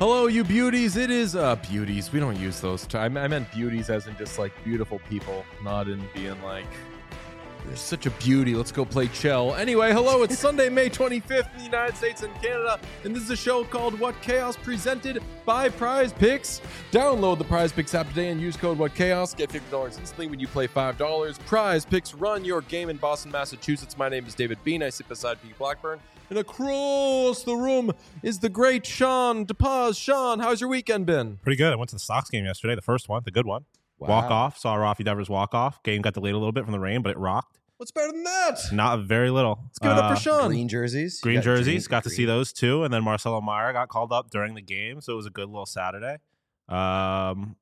Hello, you beauties. It is beauties. We don't use those. I meant beauties as in just like beautiful people, not in being like, you're such a beauty. Let's go play Chell. Anyway, hello. It's Sunday, May 25th in the United States and Canada, and this is a show called What Chaos, presented by Prize Picks. Download the Prize Picks app today and use code What Chaos. Get $50 instantly when you play $5. Prize Picks, run your game in Boston, Massachusetts. My name is David Bean. I sit beside Pete Blackburn. And across the room is the great Sean DePaz. Sean, how's your weekend been? Pretty good. I went to the Sox game yesterday, the first one, the good one. Wow. Walk-off, saw Rafi Devers walk-off. Game got delayed a little bit from the rain, but it rocked. What's better than that? Not very little. Let's give it up for Sean. Green jerseys. Green jerseys, got to see those too. And then Marcelo Meyer got called up during the game, so it was a good little Saturday. Haven't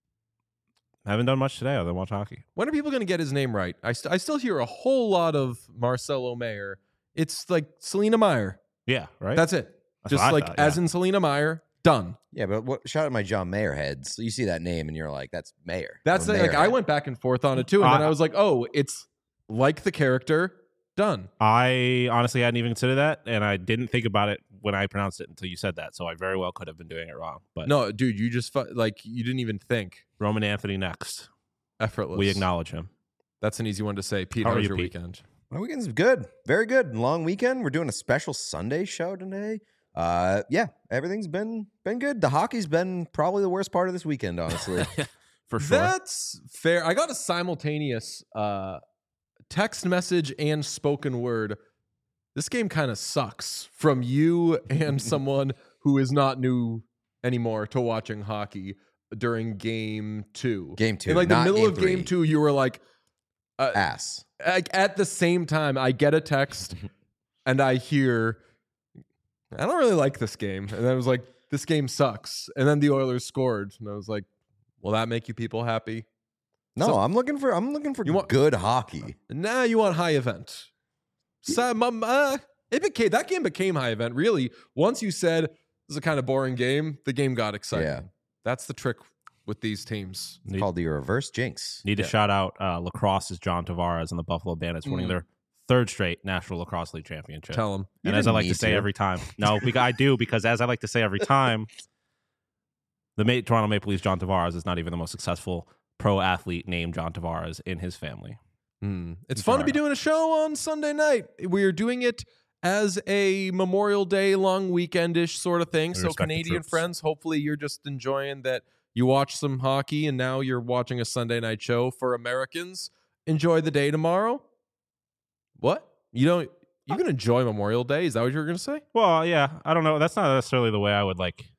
done much today other than watch hockey. When are people going to get his name right? I still hear a whole lot of Marcelo Meyer. It's like Selena Meyer. Yeah, right? That's it. That's Just what I like thought, as in Selena Meyer, done. Yeah, but shout out my John Mayer heads. So you see that name and you're like, that's Mayer. That's I'm a like Mayer I head. went back and forth on it too, and then I was like, oh, it's like the character, done. I honestly hadn't even considered that, and I didn't think about it when I pronounced it until you said that, so I very well could have been doing it wrong. But No, dude, you just you didn't even think. Roman Anthony next. Effortless. We acknowledge him. That's an easy one to say. Pete, How how are was you, your Pete? weekend? My weekend's good. Very good. Long weekend. We're doing a special Sunday show today. Yeah, everything's been good. The hockey's been probably the worst part of this weekend, honestly. For sure. That's fair. I got a simultaneous text message and spoken word. This game kind of sucks from you and someone who is not new anymore to watching hockey during game 2. Game 2. In like the not middle game of game 3. 2, you were like, Ass. like at the same time, I get a text and I hear, I don't really like this game. And I was like, this game sucks. And then the Oilers scored. And I was like, will that make you people happy? No, So- I'm looking for You want- good hockey. Nah, you want high event. So, that game became high event. Really, once you said this is a kind of boring game, the game got exciting. Yeah. That's the trick with these teams. It's called the reverse jinx. Need to Yeah. shout out lacrosse's John Tavares and the Buffalo Bandits winning their third straight National Lacrosse League Championship. Tell them. You And as I didn't like to need say to. every time, no, because I do, because as I like to say every time, the Toronto Maple Leafs John Tavares is not even the most successful pro athlete named John Tavares in his family. It's fun to be doing a show on Sunday night. We're doing it as a Memorial Day long weekendish sort of thing. We So respect the Canadian troops. friends, hopefully you're just enjoying that you watch some hockey and now you're watching a Sunday night show. For Americans, enjoy the day tomorrow. What? You can enjoy Memorial Day? Is that what you were going to say? Well, yeah, I don't know. That's not necessarily the way I would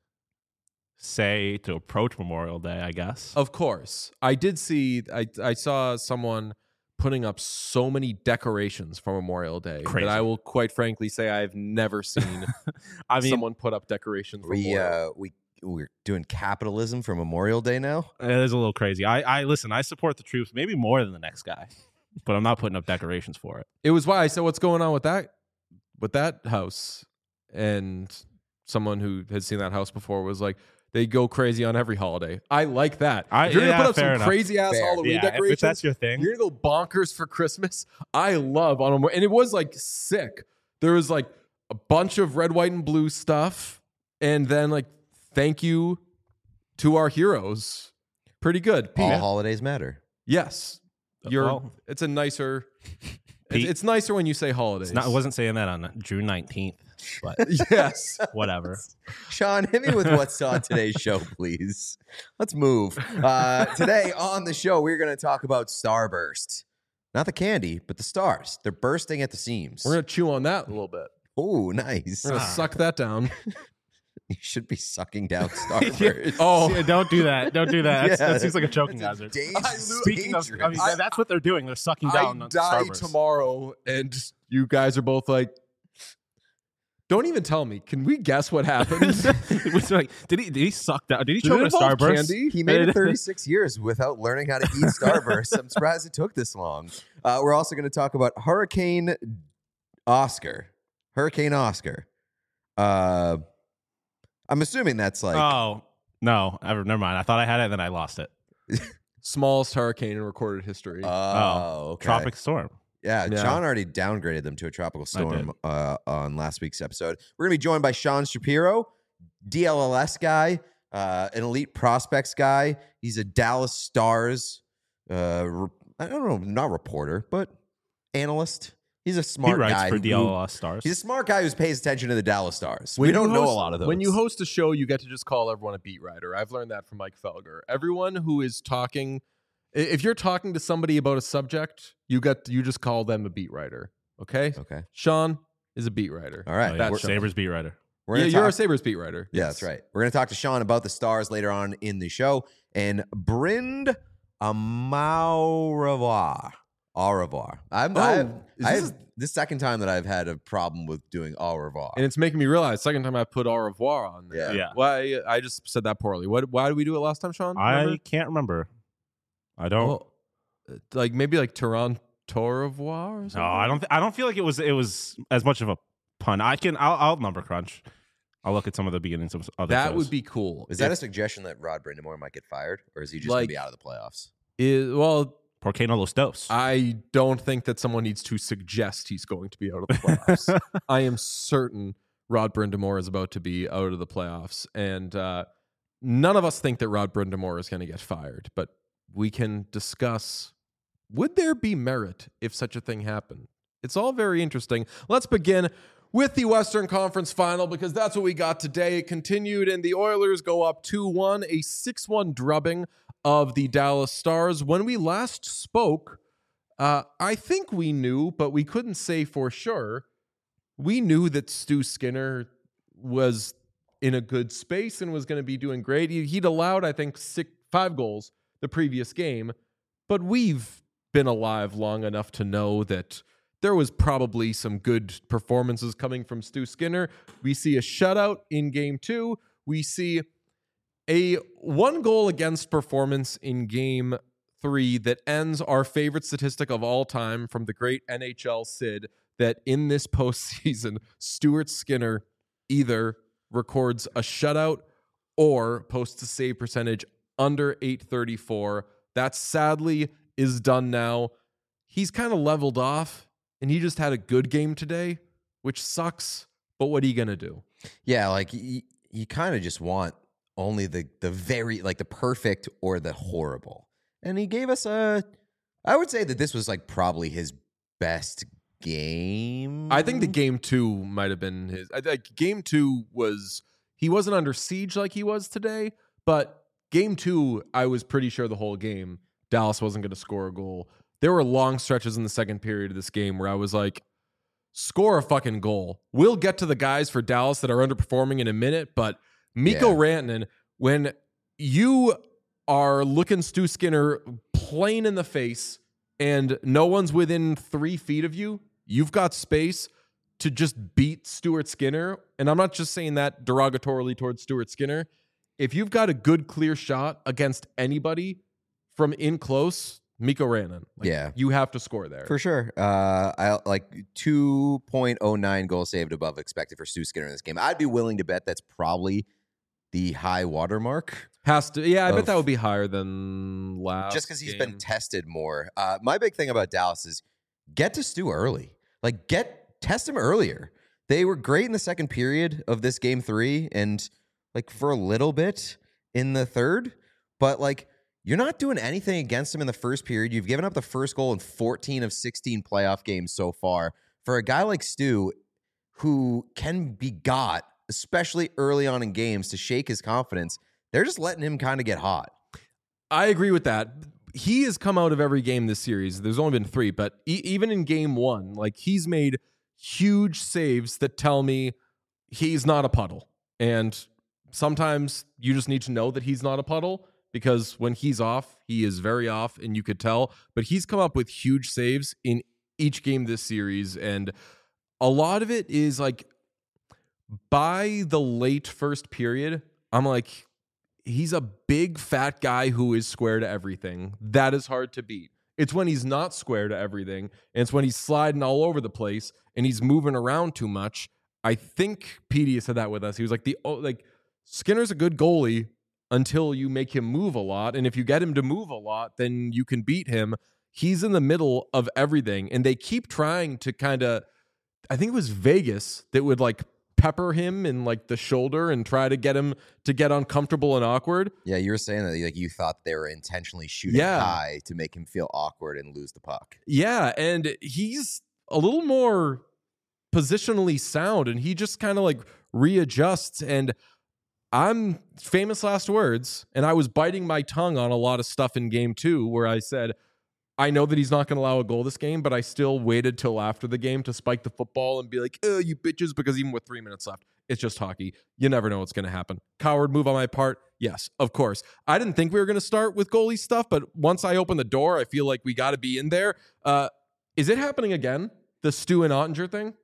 say to approach Memorial Day, I guess. Of course. I did see, I saw someone putting up so many decorations for Memorial Day Crazy. that I will quite frankly say I've never seen I mean, someone put up decorations for Memorial. We're doing capitalism for Memorial Day now. it is a little crazy. I listen, I support the troops maybe more than the next guy, but I'm not putting up decorations for it. It was why I said, what's going on with that house? And someone who had seen that house before was like, they go crazy on every holiday. I like that. If you're going to put up some crazy ass Fair. Halloween Yeah, decorations, if that's your thing. you're going to go bonkers for Christmas. I love on them. And it was like sick. There was like a bunch of red, white, and blue stuff. And then like, thank you to our heroes. Pretty good. Pete, All holidays matter. yes. It's a nicer, Pete- it's nicer when you say holidays. I wasn't saying that on June 19th, but Yes. whatever. Sean, hit me with what's on today's show, please. Let's move. Today on the show, we're going to talk about Starburst. Not the candy, but the stars. They're bursting at the seams. We're going to chew on that a little bit. Oh, nice. We're going to suck that down. You should be sucking down Starburst. Oh, Don't do that. Don't do that. Yeah, that seems like a choking it's hazard. Speaking of, I mean, that's what they're doing. They're sucking down I on die Starburst. tomorrow, and you guys are both like, don't even tell me. Can we guess what happened? It was like, did he suck down? Did he Did choke it a involve Starburst? candy? he made it 36 years without learning how to eat Starburst. I'm surprised it took this long. We're also going to talk about Hurricane Oscar. I'm assuming that's like Oh no, never mind. I thought I had it, and then I lost it. Smallest hurricane in recorded history. okay. Tropic storm. Yeah, Yeah. John already downgraded them to a tropical storm on last week's episode. We're going to be joined by Sean Shapiro, DLLS guy, an elite prospects guy. He's a Dallas Stars, I don't know, not reporter, but analyst. He's a smart He writes guy for DLLS Stars. He's a smart guy who pays attention to the Dallas Stars. We don't know a lot of those. When you host a show, you get to just call everyone a beat writer. I've learned that from Mike Felger. Everyone who is talking, if you're talking to somebody about a subject, you just call them a beat writer. Okay? Okay. Sean is a beat writer. All right. Oh, yeah. That's Sabres beat writer. You're a Sabres beat writer. Yeah, that's right. We're going to talk to Sean about the Stars later on in the show. And Brind Amaurevoir. Au revoir. This is the second time that I've had a problem with doing au revoir. And it's making me realize, second time I put au revoir on there. Yeah. Why I just said that poorly. Why did we do it last time, Sean? I can't remember. I don't. Well, like maybe like Toronto revoir or something? No, I don't feel like it was as much of a pun. I'll number crunch. I'll look at some of the beginnings of other That shows. would be cool. Is that a suggestion that Rod Brindamore might get fired? Or is he just going to be out of the playoffs? Well, Porcano Los Dos. I don't think that someone needs to suggest he's going to be out of the playoffs. I am certain Rod Brindamore is about to be out of the playoffs. And none of us think that Rod Brindamore is going to get fired. But we can discuss, would there be merit if such a thing happened? It's all very interesting. Let's begin with the Western Conference Final, because that's what we got today. It continued, and the Oilers go up 2-1, a 6-1 drubbing of the Dallas Stars. When we last spoke, I think we knew, but we couldn't say for sure. We knew that Stu Skinner was in a good space and was going to be doing great. He'd allowed, I think, 5 goals the previous game, but we've been alive long enough to know that there was probably some good performances coming from Stu Skinner. We see a shutout in Game 2. We see a 1 goal against performance in Game 3 that ends our favorite statistic of all time from the great NHL Sid, that in this postseason, Stuart Skinner either records a shutout or posts a save percentage under .834. That sadly is done now. He's kind of leveled off, and he just had a good game today, which sucks, but what are you going to do? Yeah, like you kind of just want only the very, like the perfect or the horrible. And he gave us I would say that this was like probably his best game. I think the Game 2 might have been his. Game 2 he wasn't under siege like he was today, but Game 2, I was pretty sure the whole game Dallas wasn't going to score a goal. There were long stretches in the second period of this game where I was like, score a fucking goal. We'll get to the guys for Dallas that are underperforming in a minute, but Mikko Rantanen, when you are looking Stu Skinner plain in the face and no one's within 3 feet of you, you've got space to just beat Stuart Skinner. And I'm not just saying that derogatorily towards Stuart Skinner. If you've got a good, clear shot against anybody from in close, Mikko Rantanen. You have to score there. For sure. I like 2.09 goals saved above expected for Stu Skinner in this game. I'd be willing to bet that's probably the high watermark. Has to. Yeah, I bet that would be higher than last. Just because he's been tested more. My big thing about Dallas is get to Stu early. Like, test him earlier. They were great in the second period of this Game 3 and like for a little bit in the third, but like, you're not doing anything against him in the first period. You've given up the first goal in 14 of 16 playoff games so far. For a guy like Stu, who can be got, especially early on in games, to shake his confidence, they're just letting him kind of get hot. I agree with that. He has come out of every game this series. There's only been 3, but even in Game 1, like, he's made huge saves that tell me he's not a puddle. And sometimes you just need to know that he's not a puddle, because when he's off, he is very off, and you could tell. But he's come up with huge saves in each game this series, and a lot of it is like by the late first period, I'm like, he's a big fat guy who is square to everything. That is hard to beat. It's when he's not square to everything, and it's when he's sliding all over the place and he's moving around too much. I think Petey said that with us. He was like, Skinner's a good goalie until you make him move a lot. And if you get him to move a lot, then you can beat him. He's in the middle of everything. And they keep trying to kind of, I think it was Vegas that would like pepper him in like the shoulder and try to get him to get uncomfortable and awkward. Yeah, you were saying that like you thought they were intentionally shooting high to make him feel awkward and lose the puck. Yeah, and he's a little more positionally sound, and he just kind of like readjusts. And I'm famous last words, and I was biting my tongue on a lot of stuff in game 2 where I said, I know that he's not going to allow a goal this game, but I still waited till after the game to spike the football and be like, oh, you bitches, because even with 3 minutes left, it's just hockey. You never know what's going to happen. Coward move on my part. Yes, of course. I didn't think we were going to start with goalie stuff, but once I open the door, I feel like we got to be in there. Is it happening again? The Stu and Ottinger thing?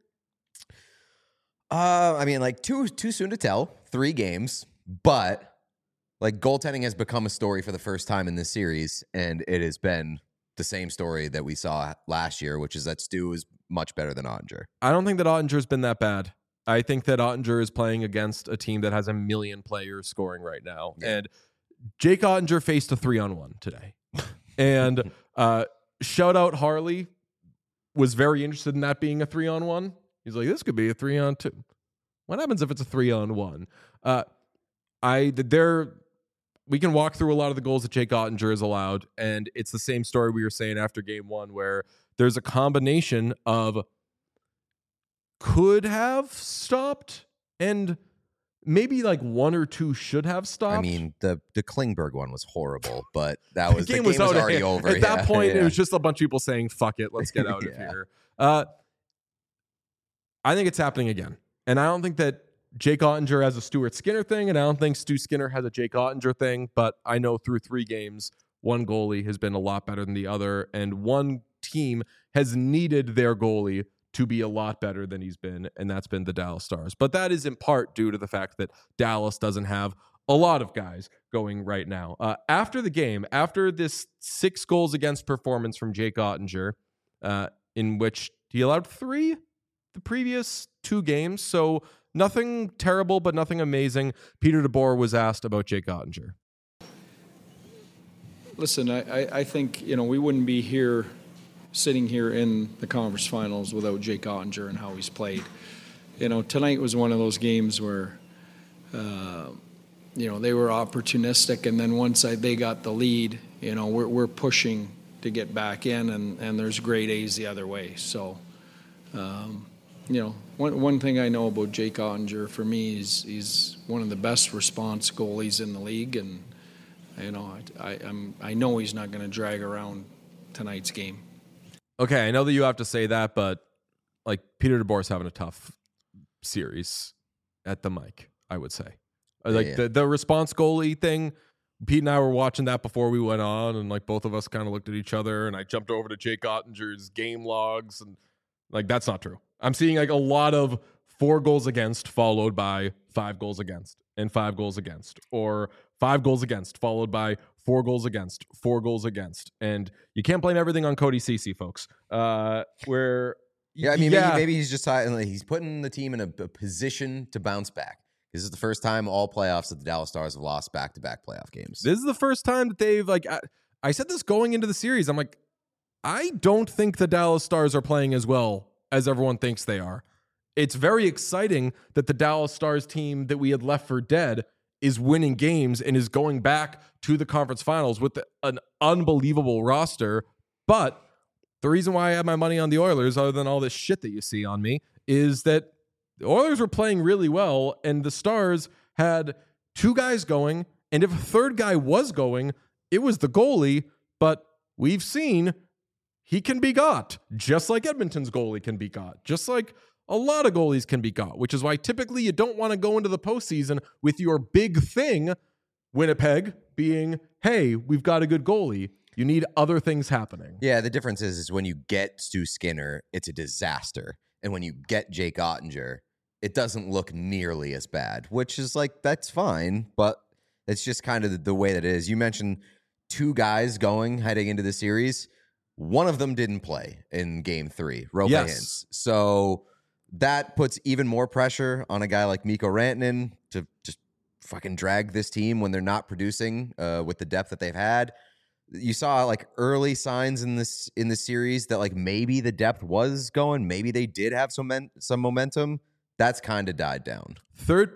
I mean, like too soon to tell. 3 games, but like goaltending has become a story for the first time in this series, and it has been the same story that we saw last year, which is that Stu is much better than Ottinger. I don't think that Ottinger's been that bad. I think that Ottinger is playing against a team that has a million players scoring right now, and Jake Ottinger faced a 3-on-1 today, and shout out Harley was very interested in that being a 3-on-1. He's like, this could be a 3-on-2. What happens if it's a 3-on-1? We can walk through a lot of the goals that Jake Ottinger has allowed, and it's the same story we were saying after game 1, where there's a combination of could have stopped and maybe like 1 or 2 should have stopped. I mean, the Klingberg one was horrible, but that was the game was already over. At that point, it was just a bunch of people saying, fuck it, let's get out of here. I think it's happening again. And I don't think that Jake Ottinger has a Stuart Skinner thing, and I don't think Stu Skinner has a Jake Ottinger thing, but I know through 3 games, one goalie has been a lot better than the other, and one team has needed their goalie to be a lot better than he's been, and that's been the Dallas Stars. But that is in part due to the fact that Dallas doesn't have a lot of guys going right now. After the game, after this 6 goals against performance from Jake Ottinger, in which he allowed 3 the previous 2 games, so nothing terrible, but nothing amazing. Peter DeBoer was asked about Jake Ottinger. Listen, I think, we wouldn't be sitting here in the conference finals without Jake Ottinger and how he's played. Tonight was one of those games where, they were opportunistic, and then once they got the lead, we're pushing to get back in, and there's grade A's the other way. So, one thing I know about Jake Ottinger, for me, is he's one of the best response goalies in the league, and I know he's not going to drag around tonight's game. Okay, I know that you have to say that, but like Peter DeBoer's having a tough series at the mic, I would say. The response goalie thing, Pete and I were watching that before we went on, and like both of us kind of looked at each other, and I jumped over to Jake Ottinger's game logs, and like that's not true. I'm seeing like a lot of 4 goals against followed by 5 goals against and 5 goals against, or 5 goals against followed by 4 goals against, 4 goals against. And you can't blame everything on Cody Ceci, folks. Maybe he's just he's putting the team in a position to bounce back. This is the first time all playoffs that the Dallas Stars have lost back-to-back playoff games. This is the first time that they've I said this going into the series. I'm like, I don't think the Dallas Stars are playing as well as everyone thinks they are. It's very exciting that the Dallas Stars team that we had left for dead is winning games and is going back to the conference finals with an unbelievable roster. But the reason why I have my money on the Oilers, other than all this shit that you see on me, is that the Oilers were playing really well, and the Stars had 2 guys going, and if a 3rd guy was going, it was the goalie. But we've seen he can be got, just like Edmonton's goalie can be got, just like a lot of goalies can be got, which is why typically you don't want to go into the postseason with your big thing, Winnipeg, being, hey, we've got a good goalie. You need other things happening. Yeah, the difference is when you get Stu Skinner, it's a disaster. And when you get Jake Ottinger, it doesn't look nearly as bad, which is like, that's fine, but it's just kind of the way that it is. You mentioned 2 guys heading into the series. One of them didn't play in game 3, Roope Hintz. So that puts even more pressure on a guy like Mikko Rantanen to just fucking drag this team when they're not producing with the depth that they've had. You saw like early signs in the series that like maybe the depth was going, maybe they did have some momentum. That's kind of died down. Second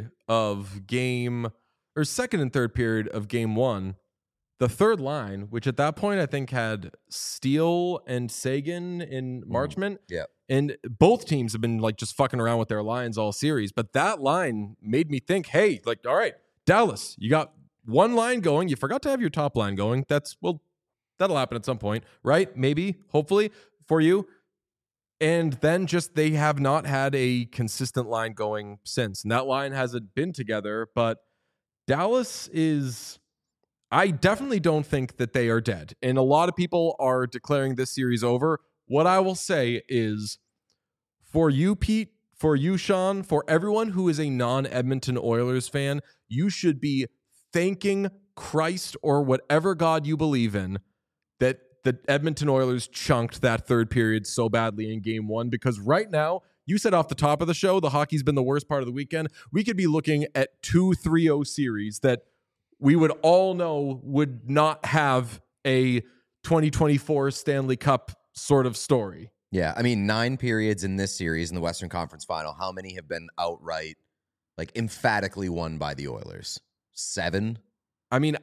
and third period of game one, the third line, which at that point I think had Steele and Sagan in Marchment. Yeah. And both teams have been like just fucking around with their lines all series. But that line made me think, hey, like, all right, Dallas, you got one line going. You forgot to have your top line going. That'll happen at some point, right? Maybe, hopefully for you. And then just they have not had a consistent line going since. And that line hasn't been together. But Dallas is, I definitely don't think that they are dead. And a lot of people are declaring this series over. What I will say is, for you, Pete, for you, Sean, for everyone who is a non-Edmonton Oilers fan, you should be thanking Christ or whatever God you believe in that the Edmonton Oilers chunked that third period so badly in game one, because right now, you said off the top of the show, the hockey's been the worst part of the weekend. We could be looking at 2-3-0 series that we would all know would not have a 2024 Stanley Cup sort of story. Yeah, I mean, 9 periods in this series in the Western Conference Final. How many have been outright, like emphatically won by the Oilers? 7? I mean,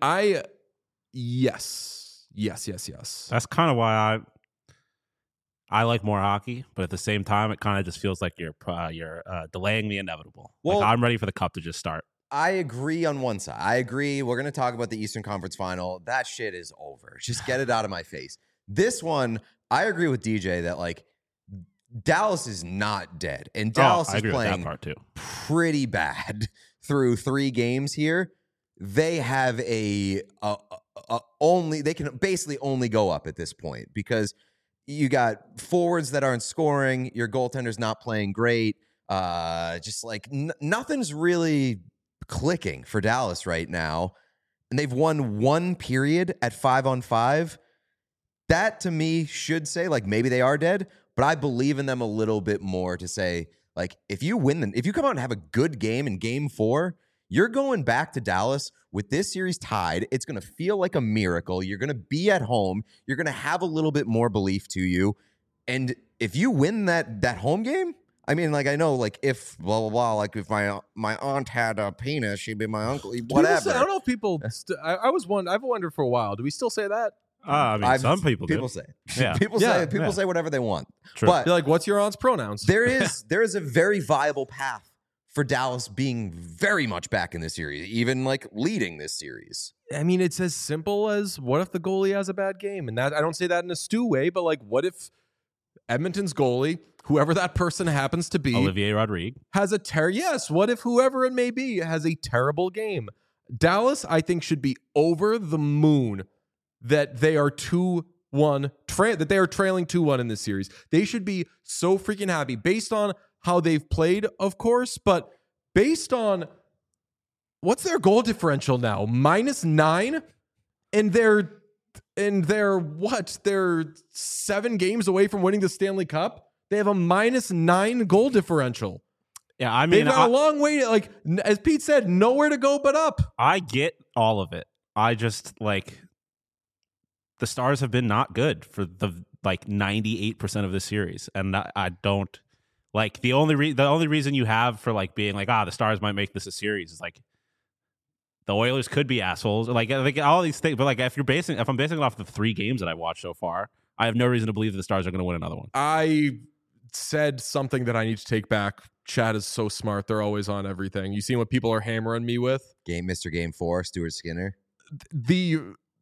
yes. That's kind of why I like more hockey, but at the same time, it kind of just feels like you're delaying the inevitable. Well, like, I'm ready for the Cup to just start. I agree on one side. I agree. We're going to talk about the Eastern Conference Final. That shit is over. Just get it out of my face. This one, I agree with DJ that, like, Dallas is not dead. And Dallas is playing pretty bad through 3 games here. They have they can basically only go up at this point, because you got forwards that aren't scoring. Your goaltender's not playing great. Just like nothing's really clicking for Dallas right now. And they've won 1 period at 5-on-5. That to me should say, like, maybe they are dead, but I believe in them a little bit more to say, like, if you come out and have a good game in game 4, you're going back to Dallas with this series tied. It's going to feel like a miracle. You're going to be at home. You're going to have a little bit more belief to you. And if you win that home game, I mean, like, I know, like, if blah, blah, blah, like, if my aunt had a penis, she'd be my uncle, whatever. I don't know if people, I've wondered for a while, do we still say that? I mean, some people say. Yeah. People say whatever they want. True. But you're like, what's your aunt's pronouns? there is a very viable path for Dallas being very much back in this series, even like leading this series. I mean, it's as simple as, what if the goalie has a bad game? And that, I don't say that in a Stu way, but like, what if Edmonton's goalie, whoever that person happens to be, Olivier Rodrigue, has yes, what if whoever it may be has a terrible game? Dallas, I think, should be over the moon that they are 2-1, that they are trailing 2-1 in this series. They should be so freaking happy based on how they've played, of course, but based on what's their goal differential now? -9, and they're what? They're 7 games away from winning the Stanley Cup. They have a -9 goal differential. Yeah, I mean, they've got a long way to, like, as Pete said, nowhere to go but up. I get all of it. I just, like, the Stars have been not good for the 98% of the series, and I don't like the only reason you have for like being like, the Stars might make this a series is like the Oilers could be assholes, like all these things. But like if I'm basing it off the 3 games that I watched so far, I have no reason to believe that the Stars are going to win another one. I said something that I need to take back. Chad is so smart; they're always on everything. You see what people are hammering me with? Mr. Game 4, Stuart Skinner. The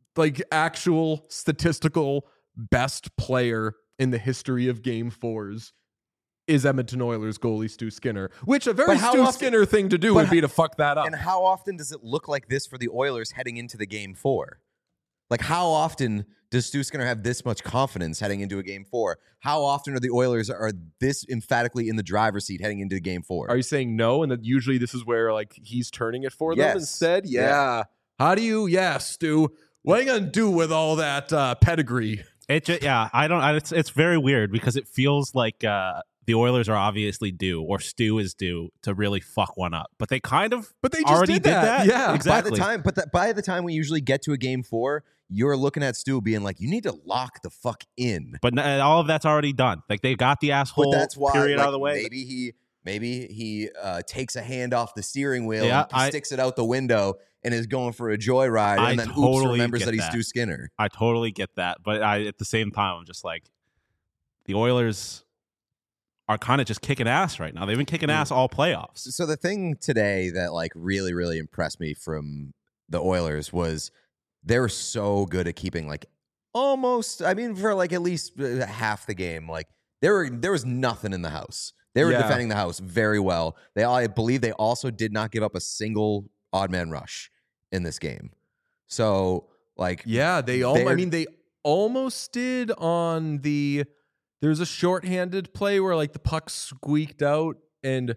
actual statistical best player in the history of Game 4s is Edmonton Oilers goalie Stu Skinner, which a very Skinner thing to do would be to fuck that up. And how often does it look like this for the Oilers heading into the Game 4? Like, how often does Stu Skinner have this much confidence heading into a Game 4? How often are the Oilers are this emphatically in the driver's seat heading into Game 4? Are you saying no, and that usually this is where, like, he's turning it for them instead? Yeah. How do you? Yeah, Stu. What are you gonna do with all that pedigree? It's very weird because it feels like the Oilers are obviously due, or Stu is due to really fuck one up. But they just already did that. Yeah, exactly. By the time we usually get to a Game 4, you're looking at Stu being like, you need to lock the fuck in. But all of that's already done. Like, they got the asshole that's why, period out of the way. Maybe Maybe he takes a hand off the steering wheel Yeah, and sticks it out the window and is going for a joyride, and then oops, remembers that he's Stu Skinner. I totally get that, but at the same time, I'm just like, the Oilers are kind of just kicking ass right now. They've been kicking ass all playoffs. So the thing today that like really, really impressed me from the Oilers was they were so good at keeping like almost, I mean, for like at least half the game, like there was nothing in the house. They were defending the house very well. I believe they also did not give up a single odd man rush in this game. So like, they almost did on the. There's a shorthanded play where like the puck squeaked out and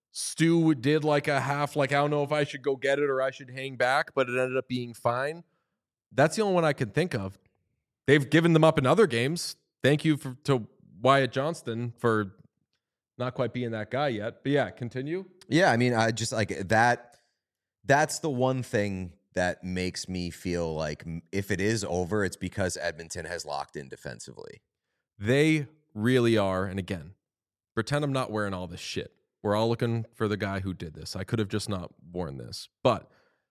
Stu did like a half, like I don't know if I should go get it or I should hang back, but it ended up being fine. That's the only one I can think of. They've given them up in other games. Thank you to Wyatt Johnston for not quite being that guy yet. But yeah, continue. Yeah, I mean, I just like that. That's the one thing that makes me feel like if it is over, it's because Edmonton has locked in defensively. They really are. And again, pretend I'm not wearing all this shit. We're all looking for the guy who did this. I could have just not worn this. But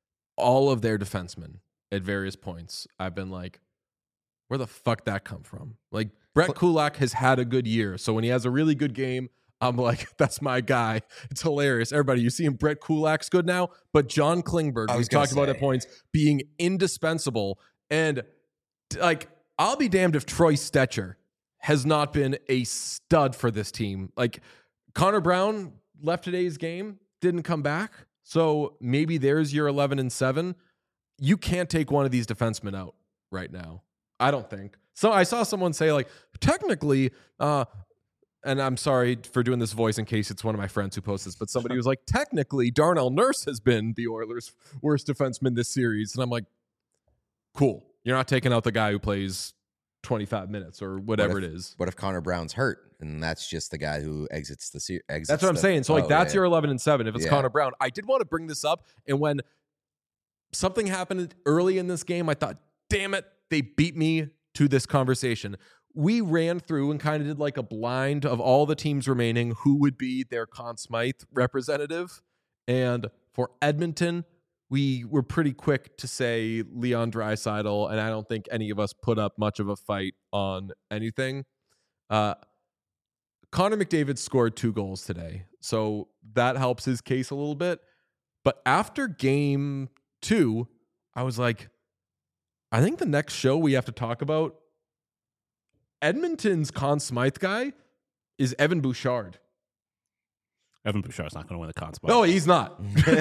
all of their defensemen at various points, I've been like, where the fuck that come from? Like, Brett Kulak has had a good year. So when he has a really good game, I'm like, that's my guy. It's hilarious. Everybody, you see him, Brett Kulak's good now, but John Klingberg, we've talked about at points, being indispensable. And like, I'll be damned if Troy Stetcher has not been a stud for this team. Like, Connor Brown left today's game, didn't come back. So maybe there's your 11-7. You can't take one of these defensemen out right now. I don't think. So I saw someone say, like, technically, and I'm sorry for doing this voice in case it's one of my friends who posts this, but somebody was like, technically, Darnell Nurse has been the Oilers' worst defenseman this series. And I'm like, cool. You're not taking out the guy who plays 25 minutes or whatever it is. What if Connor Brown's hurt and that's just the guy who exits the series? That's what I'm saying. So like that's your 11-7 if it's Connor Brown. I did want to bring this up, and when something happened early in this game, I thought, damn it, they beat me to this conversation. We ran through and kind of did like a blind of all the teams remaining who would be their Conn Smythe representative. And for Edmonton, we were pretty quick to say Leon Draisaitl, and I don't think any of us put up much of a fight on anything. Connor McDavid scored 2 goals today, so that helps his case a little bit. But after game 2, I was like, I think the next show we have to talk about, Edmonton's Conn Smythe guy is Evan Bouchard. Evan Bouchard's not going to win the Conn Smythe. No, he's not.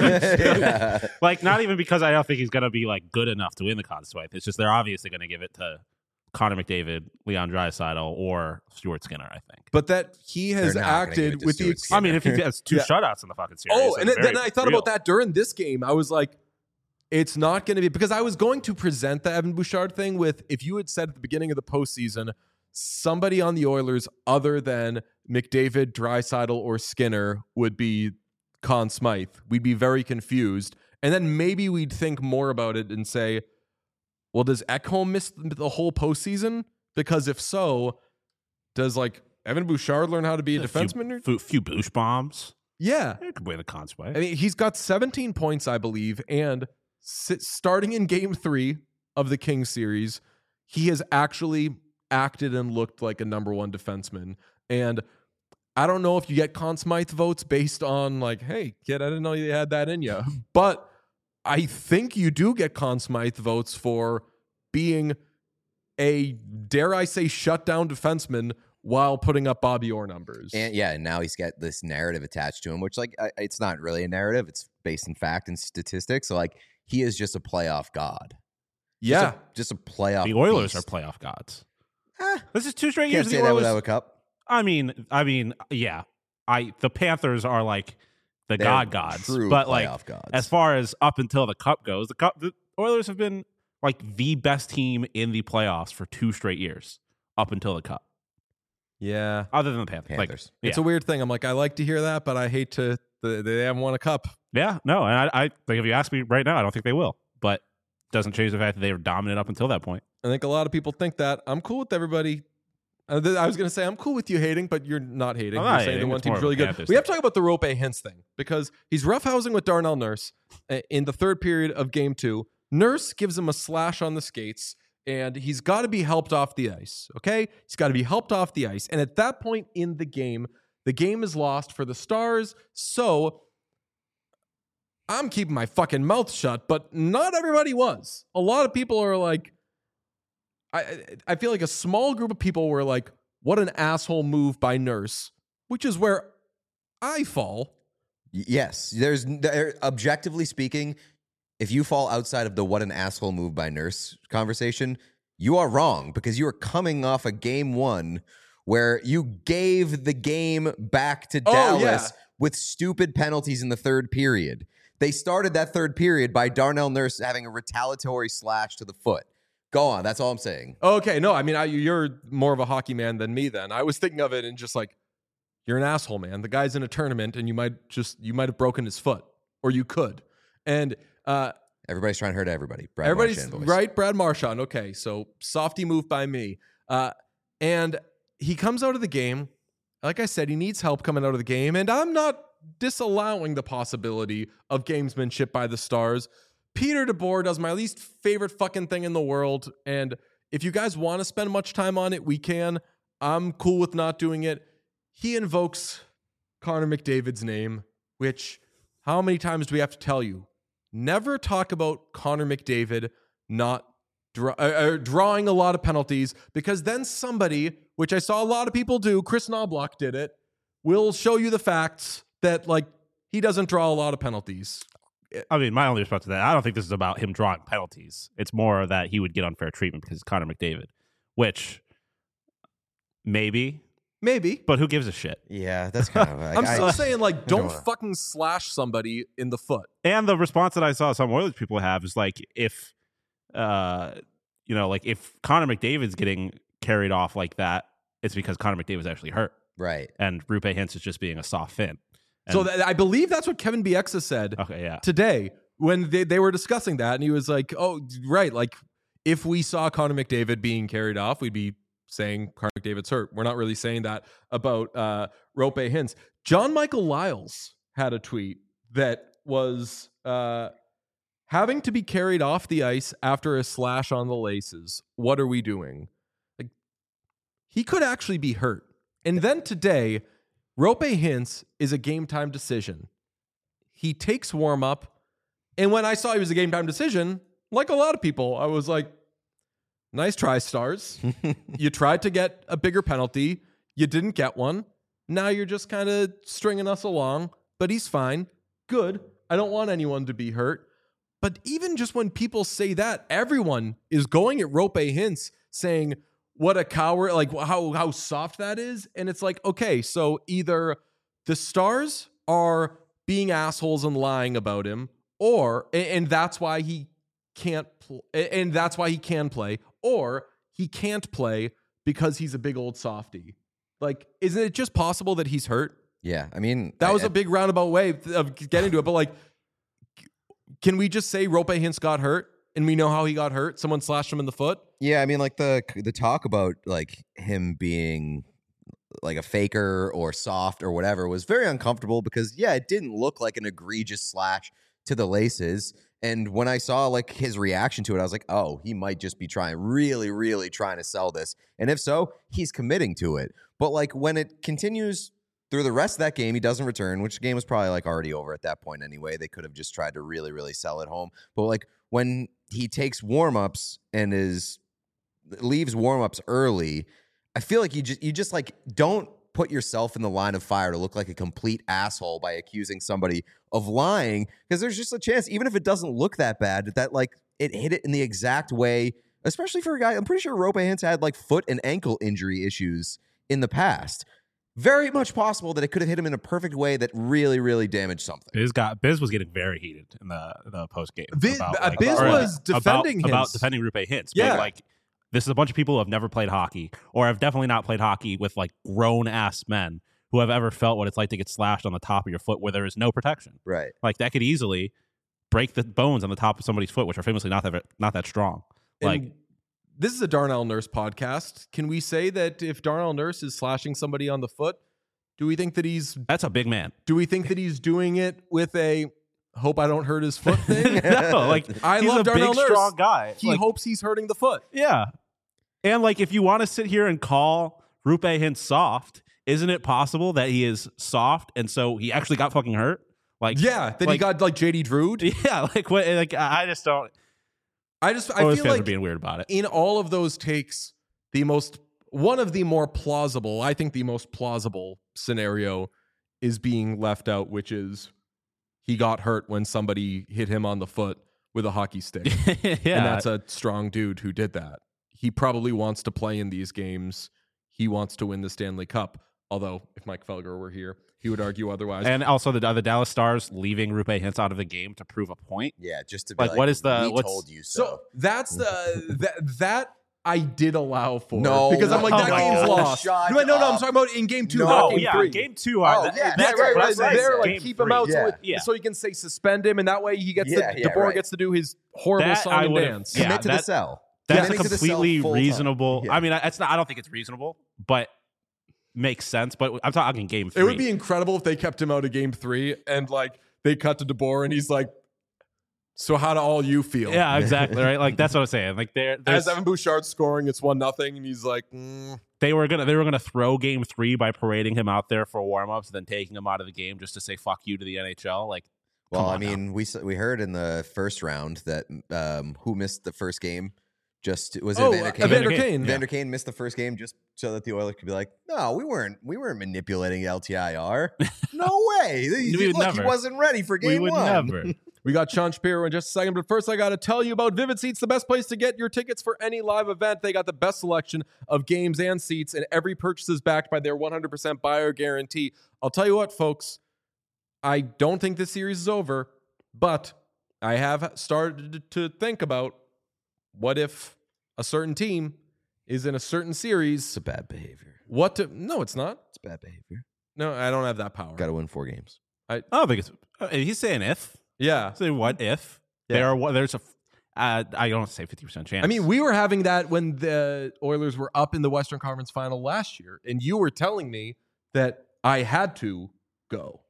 Like, not even because I don't think he's going to be like good enough to win the Conn Smythe. It's just they're obviously going to give it to Connor McDavid, Leon Draisaitl, or Stuart Skinner, I think. But that he has acted with the. I mean, if he has 2 shutouts in the fucking series. Oh, and then I thought about that during this game. I was like, it's not going to be, because I was going to present the Evan Bouchard thing with, if you had said at the beginning of the postseason, somebody on the Oilers other than McDavid, Draisaitl, or Skinner would be Conn Smythe, we'd be very confused. And then maybe we'd think more about it and say, well, does Ekholm miss the whole postseason? Because if so, does like Evan Bouchard learn how to be a defenseman? Few Bouch bombs. Yeah. He could win the Conn Smythe. I mean, he's got 17 points, I believe, and starting in game 3 of the Kings series, he has actually acted and looked like a number 1 defenseman. And I don't know if you get Conn Smythe votes based on like, hey, kid, I didn't know you had that in you. But I think you do get Conn Smythe votes for being a, dare I say, shutdown defenseman while putting up Bobby Orr numbers. And now he's got this narrative attached to him, which like it's not really a narrative. It's based in fact and statistics. So like he is just a playoff god. Yeah. Just a playoff The Oilers beast. are playoff gods. This is 2 straight Can't years. say that without a cup. I mean, yeah. The Panthers are like the They're gods, true but like playoff gods. as far as up until the cup goes, the Oilers have been like the best team in the playoffs for 2 straight years up until the cup. Yeah. Other than the Panthers. Panthers. Like, It's a weird thing. I'm like, I like to hear that, but I hate to, they haven't won a cup. yeah, no, and I think if you ask me right now, I don't think they will, but doesn't change the fact that they were dominant up until that point. I think a lot of people think that. I'm cool with everybody. I was going to say, I'm cool with you hating, but you're not hating. I'm You're not saying hating. the one It's more team's of a really good. Panthers We have to thing. talk about the Rope Hintz thing because he's roughhousing with Darnell Nurse in the third period of game 2. Nurse gives him a slash on the skates, and he's got to be helped off the ice, okay? He's got to be helped off the ice. And at that point in the game is lost for the Stars, so I'm keeping my fucking mouth shut, but not everybody was. A lot of people are like, I feel like a small group of people were like, what an asshole move by Nurse, which is where I fall. Yes, objectively speaking, if you fall outside of the what an asshole move by Nurse conversation, you are wrong because you are coming off a game 1 where you gave the game back to Dallas with stupid penalties in the third period. They started that third period by Darnell Nurse having a retaliatory slash to the foot. Go on. That's all I'm saying. Okay, no, I mean, you're more of a hockey man than me then. I was thinking of it and just like, you're an asshole, man. The guy's in a tournament and you might have broken his foot, or you could. And Everybody's trying to hurt everybody. everybody's Marchand voice. right. Brad Marchand. Okay, so softy move by me. And he comes out of the game. Like I said, he needs help coming out of the game. And I'm not disallowing the possibility of gamesmanship by the Stars. Peter DeBoer does my least favorite fucking thing in the world. And if you guys want to spend much time on it, we can. I'm cool with not doing it. He invokes Connor McDavid's name, which how many times do we have to tell you? Never talk about Connor McDavid not drawing a lot of penalties, because then somebody, which I saw a lot of people do, Chris Knobloch did it, will show you the facts that like he doesn't draw a lot of penalties. I mean, my only response to that, I don't think this is about him drawing penalties. It's more that he would get unfair treatment because it's Connor McDavid, which maybe, but who gives a shit? Yeah, that's kind of. I'm still saying, like, don't wanna- fucking slash somebody in the foot. And the response that I saw some Oilers people have is like, if, like if Connor McDavid's getting carried off like that, it's because Connor McDavid's actually hurt, right. and Rupe Hintz is just being a soft fin. And, So I believe that's what Kevin Bieksa said okay, yeah. today when they were discussing that. And he was like, oh, right. Like, if we saw Connor McDavid being carried off, we'd be saying Connor McDavid's hurt. We're not really saying that about Rupe Hintz. John Michael Lyles had a tweet that was having to be carried off the ice after a slash on the laces. What are we doing? Like, he could actually be hurt. And then today, Rupe Hintz is a game time decision. He takes warm up. And when I saw he was a game time decision, like a lot of people, I was like, nice try, Stars. You tried to get a bigger penalty. You didn't get one. Now you're just kind of stringing us along, but he's fine. Good. I don't want anyone to be hurt. But even just when people say that, everyone is going at Rupe Hintz saying, what a coward, like how soft that is. And it's like, okay, so either the Stars are being assholes and lying about him, and that's why he can't and that's why he can play, or he can't play because he's a big old softy. Like, isn't it just possible that he's hurt? Yeah, I mean, That was a big roundabout way of getting to it. But like, can we just say Rupe Hintz got hurt and we know how he got hurt? Someone slashed him in the foot. Yeah, I mean, like the talk about like him being like a faker or soft or whatever was very uncomfortable because it didn't look like an egregious slash to the laces. And when I saw like his reaction to it, I was like, oh, he might just be really trying to sell this. And if so, he's committing to it. But like when it continues through the rest of that game, he doesn't return, which the game was probably like already over at that point anyway. They could have just tried to really sell it home. But like when he takes warm-ups and leaves warm-ups early, I feel like you just like don't put yourself in the line of fire to look like a complete asshole by accusing somebody of lying, because there's just a chance, even if it doesn't look that bad, that like it hit it in the exact way, especially for a guy. I'm pretty sure Rupe Hintz had like foot and ankle injury issues in the past. Very much possible that it could have hit him in a perfect way that really damaged something. Biz was getting very heated in the post game. Biz was defending about Hintz. defending Rupe Hintz. Yeah. But like, this is a bunch of people who have never played hockey, or have definitely not played hockey with like grown ass men who have ever felt what it's like to get slashed on the top of your foot where there is no protection. Right. Like that could easily break the bones on the top of somebody's foot, which are famously not that strong. Like, And this is a Darnell Nurse podcast. Can we say that if Darnell Nurse is slashing somebody on the foot, do we think that he's That's a big man. doing it with a hope I don't hurt his foot thing? No, like I he's love a Darnell big, Nurse. strong guy. He Like, hopes he's hurting the foot. yeah. And like, if you want to sit here and call Rupe Hintz soft, isn't it possible that he is soft and so he actually got fucking hurt? Like, Yeah, that he like- got like JD Drew'd. yeah. Like what? Like I just don't. I Always feel fans are like being weird about it. in all of those takes, one of the more plausible, I think the most plausible scenario is being left out, which is he got hurt when somebody hit him on the foot with a hockey stick. Yeah, And that's a strong dude who did that. He probably wants to play in these games. He wants to win the Stanley Cup. Although, if Mike Felger were here, he would argue otherwise. and also the Dallas Stars leaving Rupe Hintz out of the game to prove a point. Yeah, just to be Like, like, what is the- we what's- told you so so. that's that I did allow for. No, because I'm like, that no, game's lost. shut No, no, I'm up. talking about in game 2, No. not Oh game yeah, 3. game 2. Oh, that- yeah, that's right, what I'm right. saying. There, like Game keep him 3. out, Yeah. Yeah. so you can say suspend him, and that way he gets Yeah, yeah, DeBoer right. gets to do his horrible That song I and would've- dance. yeah, Commit to the that- cell. That's a Committing to the cell completely full time. reasonable. Yeah. I mean, it's not. I don't think it's reasonable, but makes sense. But I'm talking game 3. It would be incredible if they kept him out of game 3 and like they cut to DeBoer and he's like, "So how do all you feel?" Yeah, exactly. Right. Like that's what I'm saying. Like As Evan Bouchard's scoring, it's 1-0, and he's like, they were gonna throw game 3 by parading him out there for warmups, then taking him out of the game just to say fuck you to the NHL. Like, Well, come I on now. mean, we heard in the first round that who missed the first game just was it "Oh, Evander Kane? Evander Kane. Kane." Evander Kane missed the first game just so that the Oilers could be like, no, we weren't manipulating LTIR. No way. We would Look, he never. wasn't ready for we game would 1. never. We got Sean Shapiro in just a second, but first I got to tell you about Vivid Seats, the best place to get your tickets for any live event. They got the best selection of games and seats, and every purchase is backed by their 100% buyer guarantee. I'll tell you what, folks, I don't think this series is over, but I have started to think about what if a certain team is in a certain series. It's a bad behavior. No, it's not. It's bad behavior. No, I don't have that power. Got to win 4 games. I don't think it's. He's saying if. Yeah. Say what if Yeah. there's a. I don't say 50% chance. I mean, we were having that when the Oilers were up in the Western Conference Final last year, and you were telling me that I had to go.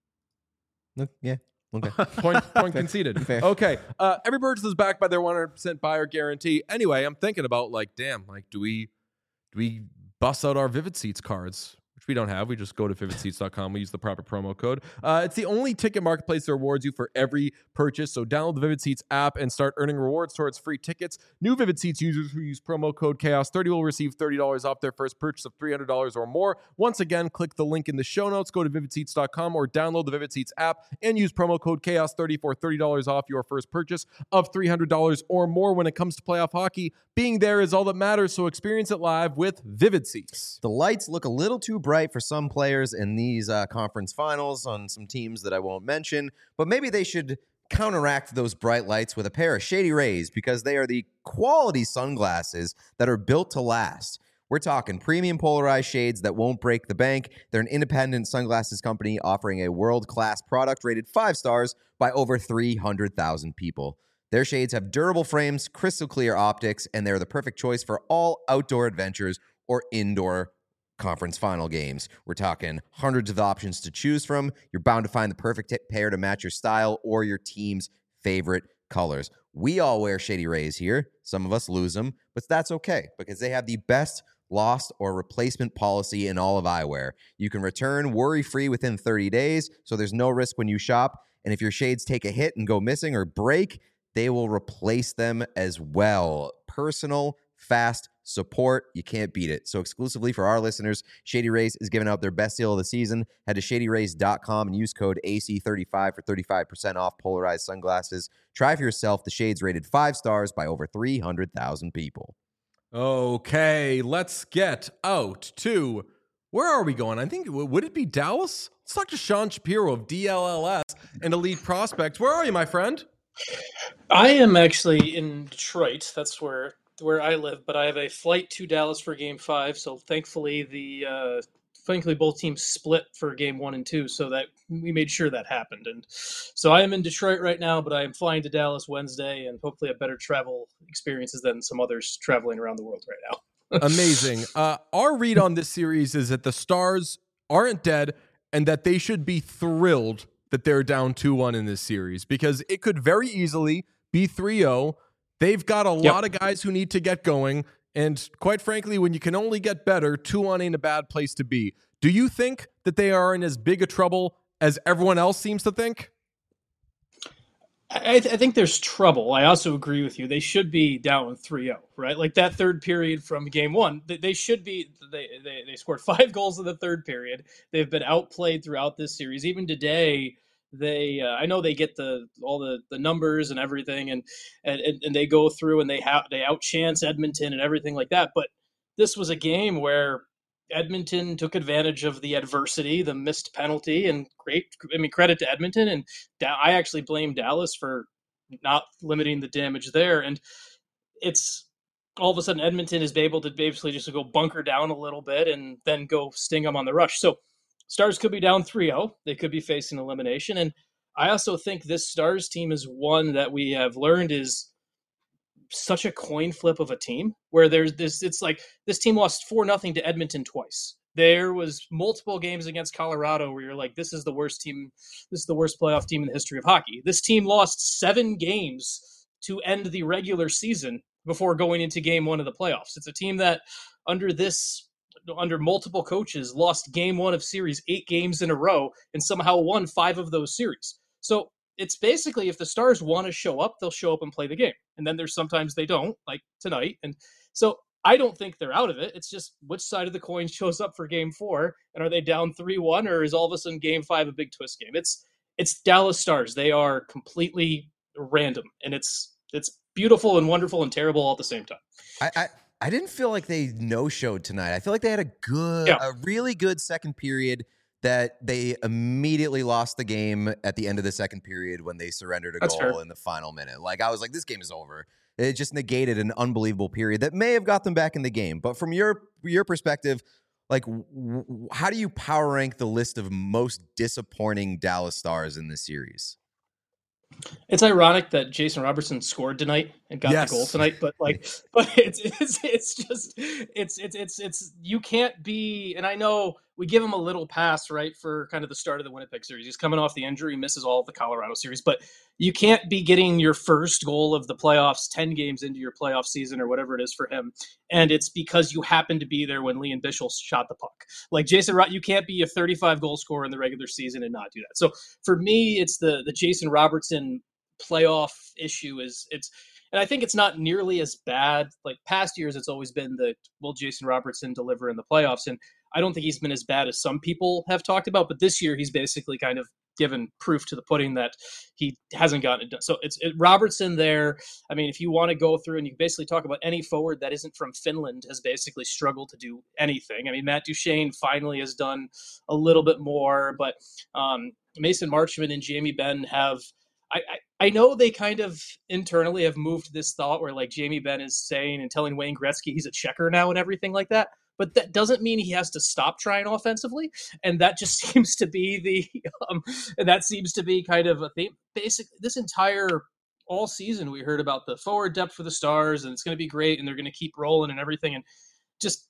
Yeah. Okay. Point conceded. Fair. Okay. Every purchase is backed by their 100% buyer guarantee. Anyway, I'm thinking about like, damn, like, do we bust out our Vivid Seats cards? Which we don't have. We just go to vividseats.com. We use the proper promo code. It's the only ticket marketplace that rewards you for every purchase. So download the Vivid Seats app and start earning rewards towards free tickets. New Vivid Seats users who use promo code CHAOS30 will receive $30 off their first purchase of $300 or more. Once again, click the link in the show notes. Go to vividseats.com or download the Vivid Seats app and use promo code CHAOS30 for $30 off your first purchase of $300 or more. When it comes to playoff hockey, being there is all that matters. So experience it live with Vivid Seats. The lights look a little too bright for some players in these conference finals on some teams that I won't mention, but maybe they should counteract those bright lights with a pair of Shady Rays because they are the quality sunglasses that are built to last. We're talking premium polarized shades that won't break the bank. They're an independent sunglasses company offering a world-class product rated 5 stars by over 300,000 people. Their shades have durable frames, crystal clear optics, and they're the perfect choice for all outdoor adventures or indoor conference final games. We're talking hundreds of options to choose from. You're bound to find the perfect pair to match your style or your team's favorite colors. We all wear Shady Rays here. Some of us lose them, but that's okay because they have the best lost or replacement policy in all of eyewear. You can return worry-free within 30 days, so there's no risk when you shop. And if your shades take a hit and go missing or break, they will replace them as well. Personal, fast support. You can't beat it. So exclusively for our listeners, Shady Rays is giving out their best deal of the season. Head to shadyrays.com and use code AC35 for 35% off polarized sunglasses. Try for yourself the shades rated 5 stars by over 300,000 people. Okay, let's get out to where are we going? I think would it be Dallas? Let's talk to Sean Shapiro of DLLS and Elite Prospects. Where are you, my friend? I am actually in Detroit. That's where I live, but I have a flight to Dallas for Game 5. So thankfully, the frankly, both teams split for game 1 and 2, so that we made sure that happened. And so I am in Detroit right now, but I am flying to Dallas Wednesday, and hopefully have better travel experiences than some others traveling around the world right now. Amazing. Our read on this series is that the Stars aren't dead and that they should be thrilled that they're down 2-1 in this series, because it could very easily be 3-0. They've got a lot of guys who need to get going. And quite frankly, when you can only get better, 2-1 ain't a bad place to be. Do you think that they are in as big a trouble as everyone else seems to think? I think there's trouble. I also agree with you. They should be down 3-0, right? Like that third period from game 1, they should be. They scored 5 goals in the third period. They've been outplayed throughout this series. Even today, I know they get all the numbers and everything, and they go through and they outchance Edmonton and everything like that. But this was a game where Edmonton took advantage of the adversity, the missed penalty, and credit to Edmonton. And I actually blame Dallas for not limiting the damage there. And it's all of a sudden Edmonton is able to basically just go bunker down a little bit and then go sting them on the rush. So Stars could be down 3-0. They could be facing elimination. And I also think this Stars team is one that we have learned is such a coin flip of a team, where there's this, it's like this team lost 4-0 to Edmonton twice. There was multiple games against Colorado where you're like, this is the worst team. This is the worst playoff team in the history of hockey. This team lost 7 games to end the regular season before going into game 1 of the playoffs. It's a team that under multiple coaches lost game 1 of series 8 games in a row and somehow won 5 of those series. So it's basically, if the Stars want to show up, they'll show up and play the game. And then there's sometimes they don't, like tonight. And so I don't think they're out of it. It's just which side of the coin shows up for game 4. And are they down 3-1, or is all of a sudden game 5 a big twist game? It's Dallas Stars. They are completely random. And it's beautiful and wonderful and terrible all at the same time. I didn't feel like they no-showed tonight. I feel like they had a really good second period that they immediately lost the game at the end of the second period when they surrendered a goal in the final minute. Like, I was like, this game is over. It just negated an unbelievable period that may have got them back in the game. But from your perspective, like, how do you power rank the list of most disappointing Dallas Stars in this series? It's ironic that Jason Robertson scored tonight and got the goal tonight, but it's you can't be. And I know we give him a little pass, right, for kind of the start of the Winnipeg series. He's coming off the injury, misses all of the Colorado series, but you can't be getting your first goal of the playoffs 10 games into your playoff season or whatever it is for him, and it's because you happened to be there when Liam Bichsel shot the puck. Like you can't be a 35 goal scorer in the regular season and not do that. So for me, it's the Jason Robertson playoff issue and I think it's not nearly as bad. Like past years, it's always been will Jason Robertson deliver in the playoffs? And I don't think he's been as bad as some people have talked about, but this year he's basically kind of given proof to the pudding that he hasn't gotten it done. So it's Robertson there. I mean, if you want to go through and you basically talk about any forward that isn't from Finland has basically struggled to do anything. I mean, Matt Duchene finally has done a little bit more, but Mason Marchment and Jamie Benn have, I know they kind of internally have moved this thought where like Jamie Benn is saying and telling Wayne Gretzky he's a checker now and everything like that. But that doesn't mean he has to stop trying offensively. And that just seems to be that seems to be kind of a theme. Basically, this entire all season, we heard about the forward depth for the Stars and it's going to be great and they're going to keep rolling and everything. And just,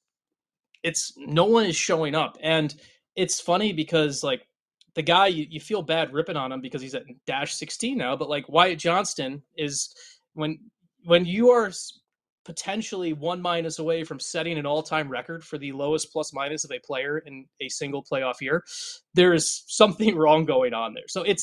no one is showing up. And it's funny because like, the guy, you feel bad ripping on him because he's at -16 now, but like Wyatt Johnston is when you are potentially 1- away from setting an all-time record for the lowest plus-minus of a player in a single playoff year, there's something wrong going on there. So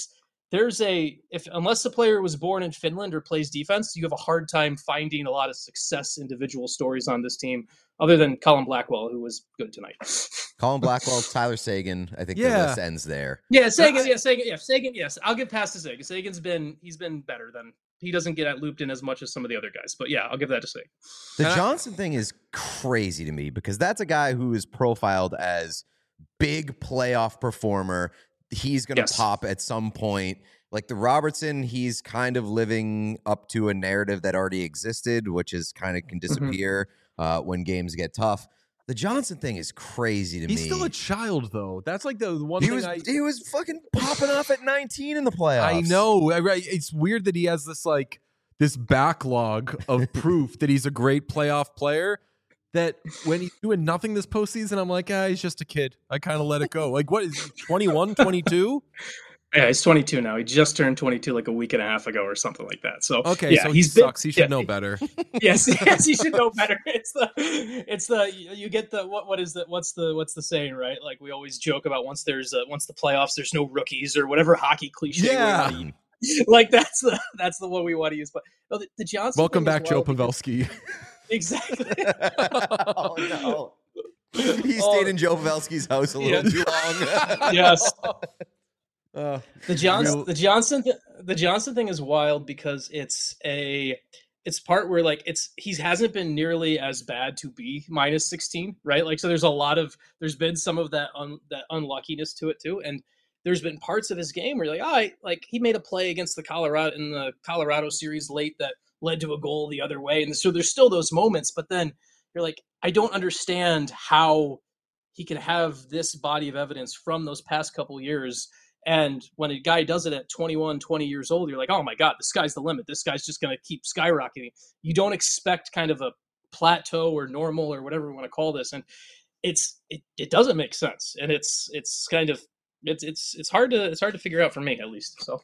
unless the player was born in Finland or plays defense, you have a hard time finding a lot of success individual stories on this team, other than Colin Blackwell, who was good tonight. Colin Blackwell, Tyler Seguin. I think the list ends there. Yeah, Seguin. Yes, I'll give past to Seguin. Seguin's been better than. He doesn't get looped in as much as some of the other guys, but yeah, I'll give that to Seguin. The Johnson thing is crazy to me because that's a guy who is profiled as big playoff performer. He's going to pop at some point. Like the Robertson, he's kind of living up to a narrative that already existed, which is kind of can disappear when games get tough. The Johnson thing is crazy to me. He's still a child, though. That's like the one He thing he was fucking popping off at 19 in the playoffs. I know. It's weird that he has this backlog of proof that he's a great playoff player, that when he's doing nothing this postseason, I'm like, he's just a kid. I kind of let it go. Like, what is he, 21, 22? Yeah, he's 22 now. He just turned 22 like a week and a half ago or something like that. So okay, yeah, so he sucks. He should know better. Yes, he should know better. It's the you get the what's the saying, right? Like we always joke about once the playoffs, there's no rookies or whatever hockey cliche. Yeah, like that's the one we want to use. But no, the Johnson. Welcome back, Joe Pavelski. Exactly. Oh no. He stayed in Joe Pavelski's house a little too long. Yes. The Johnson thing is wild because it's part where like he hasn't been nearly as bad to be minus 16, right? Like, so there's been some of that that unluckiness to it too. And there's been parts of his game where you're like, he made a play against the Colorado series late that led to a goal the other way. And so there's still those moments, but then you're like, I don't understand how he can have this body of evidence from those past couple of years. And when a guy does it at 21, 20 years old, you're like, oh my God, the sky's the limit. This guy's just going to keep skyrocketing. You don't expect kind of a plateau or normal or whatever we want to call this. And it doesn't make sense. And it's hard to figure out for me, at least. So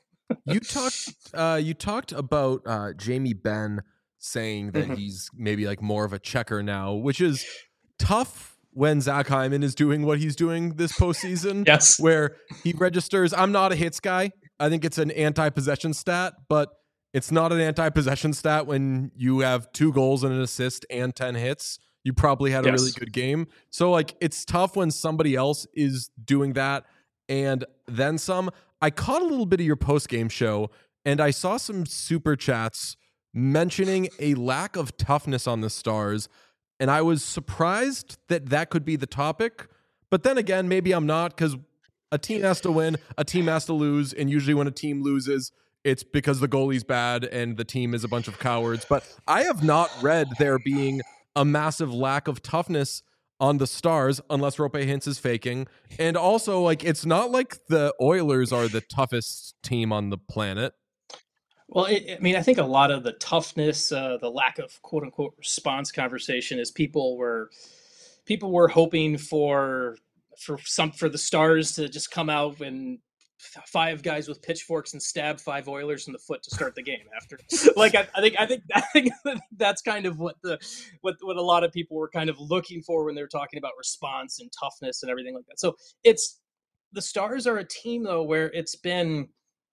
you talked about Jamie Benn saying that he's maybe like more of a checker now, which is tough when Zach Hyman is doing what he's doing this postseason. Yes. Where he registers, I'm not a hits guy. I think it's an anti-possession stat, but it's not an anti-possession stat when you have 2 goals and an assist and 10 hits. You probably had a really good game. So like, it's tough when somebody else is doing that and then some. I caught a little bit of your post-game show and I saw some super chats mentioning a lack of toughness on the Stars. And I was surprised that could be the topic. But then again, maybe I'm not, because a team has to win, a team has to lose. And usually when a team loses, it's because the goalie's bad and the team is a bunch of cowards. But I have not read there being a massive lack of toughness on the Stars, unless Roope Hintz is faking. And also, like, it's not like the Oilers are the toughest team on the planet. Well, I think a lot of the toughness, the lack of quote unquote response conversation is people were hoping for the Stars to just come out and 5 guys with pitchforks and stab 5 Oilers in the foot to start the game after. Like, I think that's kind of what a lot of people were kind of looking for when they were talking about response and toughness and everything like that. So the Stars are a team though where it's been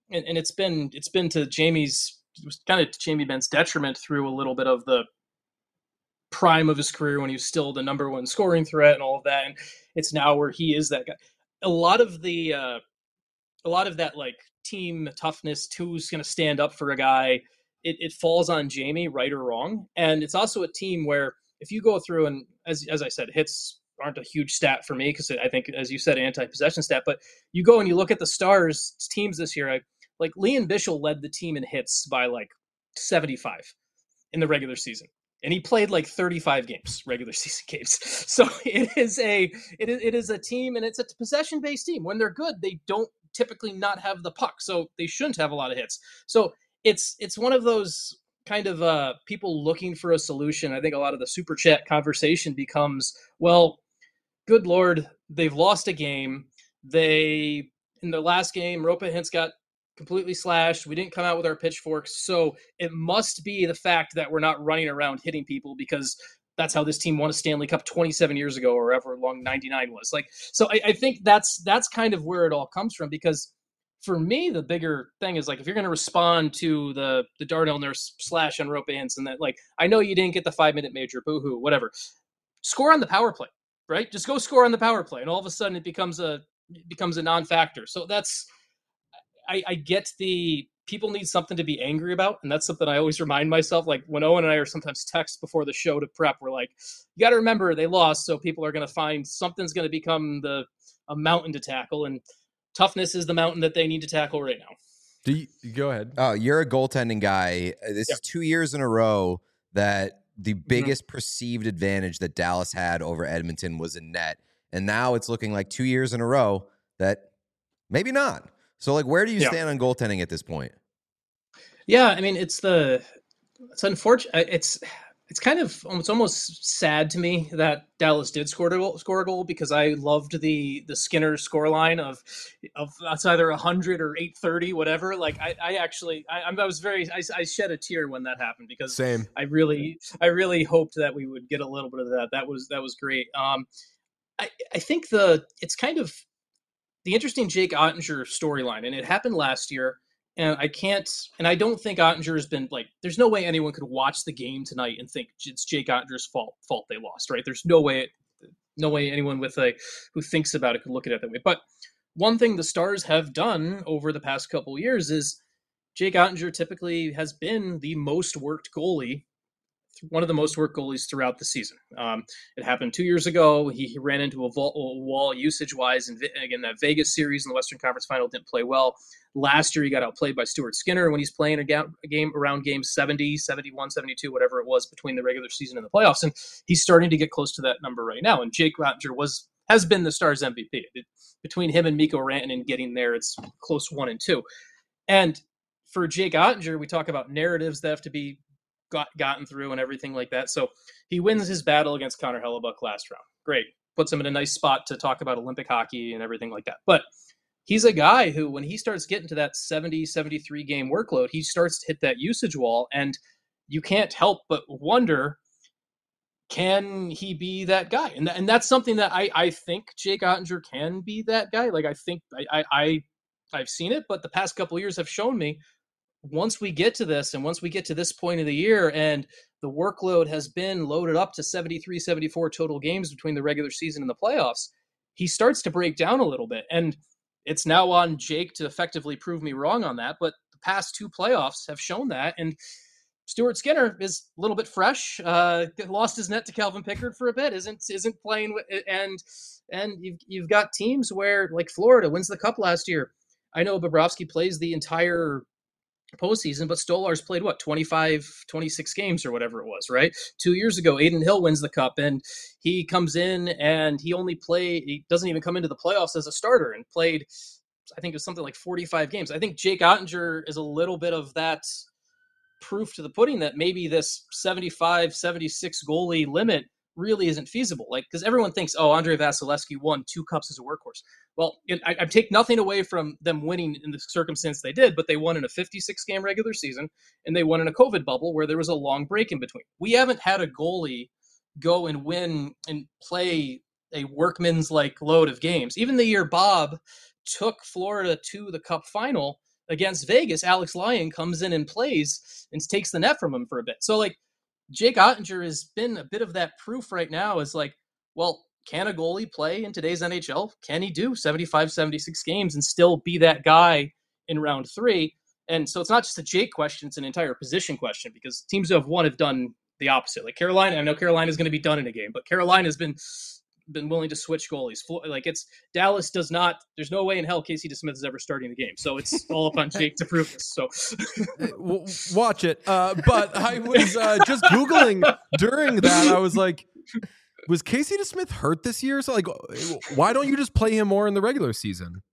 to Jamie Benn's detriment through a little bit of the prime of his career when he was still the number 1 scoring threat and all of that. And it's now where he is that guy. A lot of that like team toughness, who's going to stand up for a guy, it falls on Jamie, right or wrong. And it's also a team where if you go through, and as I said, hits aren't a huge stat for me because I think, as you said, anti-possession stat, but you go and you look at the Stars teams this year, like Liam Bichsel led the team in hits by like 75 in the regular season. And he played like 35 games, regular season games. So it is a team, and it's a possession-based team. When they're good, they don't typically not have the puck, so they shouldn't have a lot of hits. So it's one of those kind of people looking for a solution. I think a lot of the super chat conversation becomes, well, good Lord, they've lost a game. In the last game, Roope Hintz got completely slashed. We didn't come out with our pitchforks. So it must be the fact that we're not running around hitting people, because that's how this team won a Stanley Cup 27 years ago, or however long 99 was. Like, so I think that's kind of where it all comes from, because for me, the bigger thing is, like, if you're going to respond to the Darnell Nurse slash on Roope Hintz, and that, like, I know you didn't get the 5-minute major, boo-hoo, whatever. Score on the power play, right? Just go score on the power play. And all of a sudden it becomes a non-factor. So that's, I get the people need something to be angry about. And that's something I always remind myself. Like when Owen and I are sometimes text before the show to prep, we're like, you got to remember they lost. So people are going to find something's going to become a mountain to tackle. And toughness is the mountain that they need to tackle right now. Do you go ahead? Oh, you're a goaltending guy. This is 2 years in a row that the biggest perceived advantage that Dallas had over Edmonton was in net. And now it's looking like 2 years in a row that maybe not. So, like, where do you stand on goaltending at this point? Yeah, I mean, it's unfortunate. It's kind of, it's almost sad to me that Dallas did score a goal because I loved the Skinner scoreline of it's either 100 or 830, whatever. Like I shed a tear when that happened because Same. I really hoped that we would get a little bit of that. That was great. I think it's kind of the interesting Jake Ottinger storyline, and it happened last year. And I don't think Ottinger has been like, there's no way anyone could watch the game tonight and think it's Jake Ottinger's fault they lost, right? There's no way anyone who thinks about it could look at it that way. But one thing the Stars have done over the past couple of years is Jake Ottinger typically has been the most worked goalie, one of the most worked goalies throughout the season. It happened 2 years ago. He ran into a wall usage-wise, and again, that Vegas series in the Western Conference Final didn't play well. Last year, he got outplayed by Stuart Skinner when he's playing a game around game 70, 71, 72, whatever it was between the regular season and the playoffs, and he's starting to get close to that number right now. And Jake Ottinger has been the Stars MVP. Between him and Mikko Rantanen getting there, it's close 1 and 2. And for Jake Ottinger, we talk about narratives that have to be gotten through and everything like that. So he wins his battle against Connor Hellebuck last round. Great. Puts him in a nice spot to talk about Olympic hockey and everything like that. But he's a guy who, when he starts getting to that 70, 73 game workload, he starts to hit that usage wall. And you can't help but wonder, can he be that guy? And that's something that I think Jake Ottinger can be that guy. Like, I think I've seen it, but the past couple of years have shown me once we get to this and once we get to this point of the year and the workload has been loaded up to 73, 74 total games between the regular season and the playoffs, he starts to break down a little bit. And it's now on Jake to effectively prove me wrong on that. But the past 2 playoffs have shown that. And Stuart Skinner is a little bit fresh, lost his net to Calvin Pickard for a bit, isn't playing. And you've got teams where, like Florida wins the Cup last year. I know Bobrovsky plays the entire postseason, but Stolarz played 25, 26 games or whatever it was, right? 2 years ago, Adin Hill wins the Cup, and he comes in and he doesn't even come into the playoffs as a starter and played, I think it was something like 45 games. I think Jake Ottinger is a little bit of that proof to the pudding that maybe this 75, 76 goalie limit really isn't feasible. Like, because everyone thinks, Andrei Vasilevsky won 2 cups as a workhorse. Well, I take nothing away from them winning in the circumstance they did, but they won in a 56-game regular season, and they won in a COVID bubble where there was a long break in between. We haven't had a goalie go and win and play a workman's-like load of games. Even the year Bob took Florida to the Cup final against Vegas, Alex Lyon comes in and plays and takes the net from him for a bit. So, like, Jake Ottinger has been a bit of that proof right now is like, well, can a goalie play in today's NHL? Can he do 75, 76 games and still be that guy in round 3? And so it's not just a Jake question, it's an entire position question because teams who have won have done the opposite. Like Carolina, I know Carolina is going to be done in a game, but Carolina has been willing to switch goalies. Like Dallas does not, there's no way in hell Casey DeSmith is ever starting the game. So it's all up on Jake to prove this. So watch it. But I was just Googling during that. I was like, was Casey DeSmith hurt this year? So, like, why don't you just play him more in the regular season?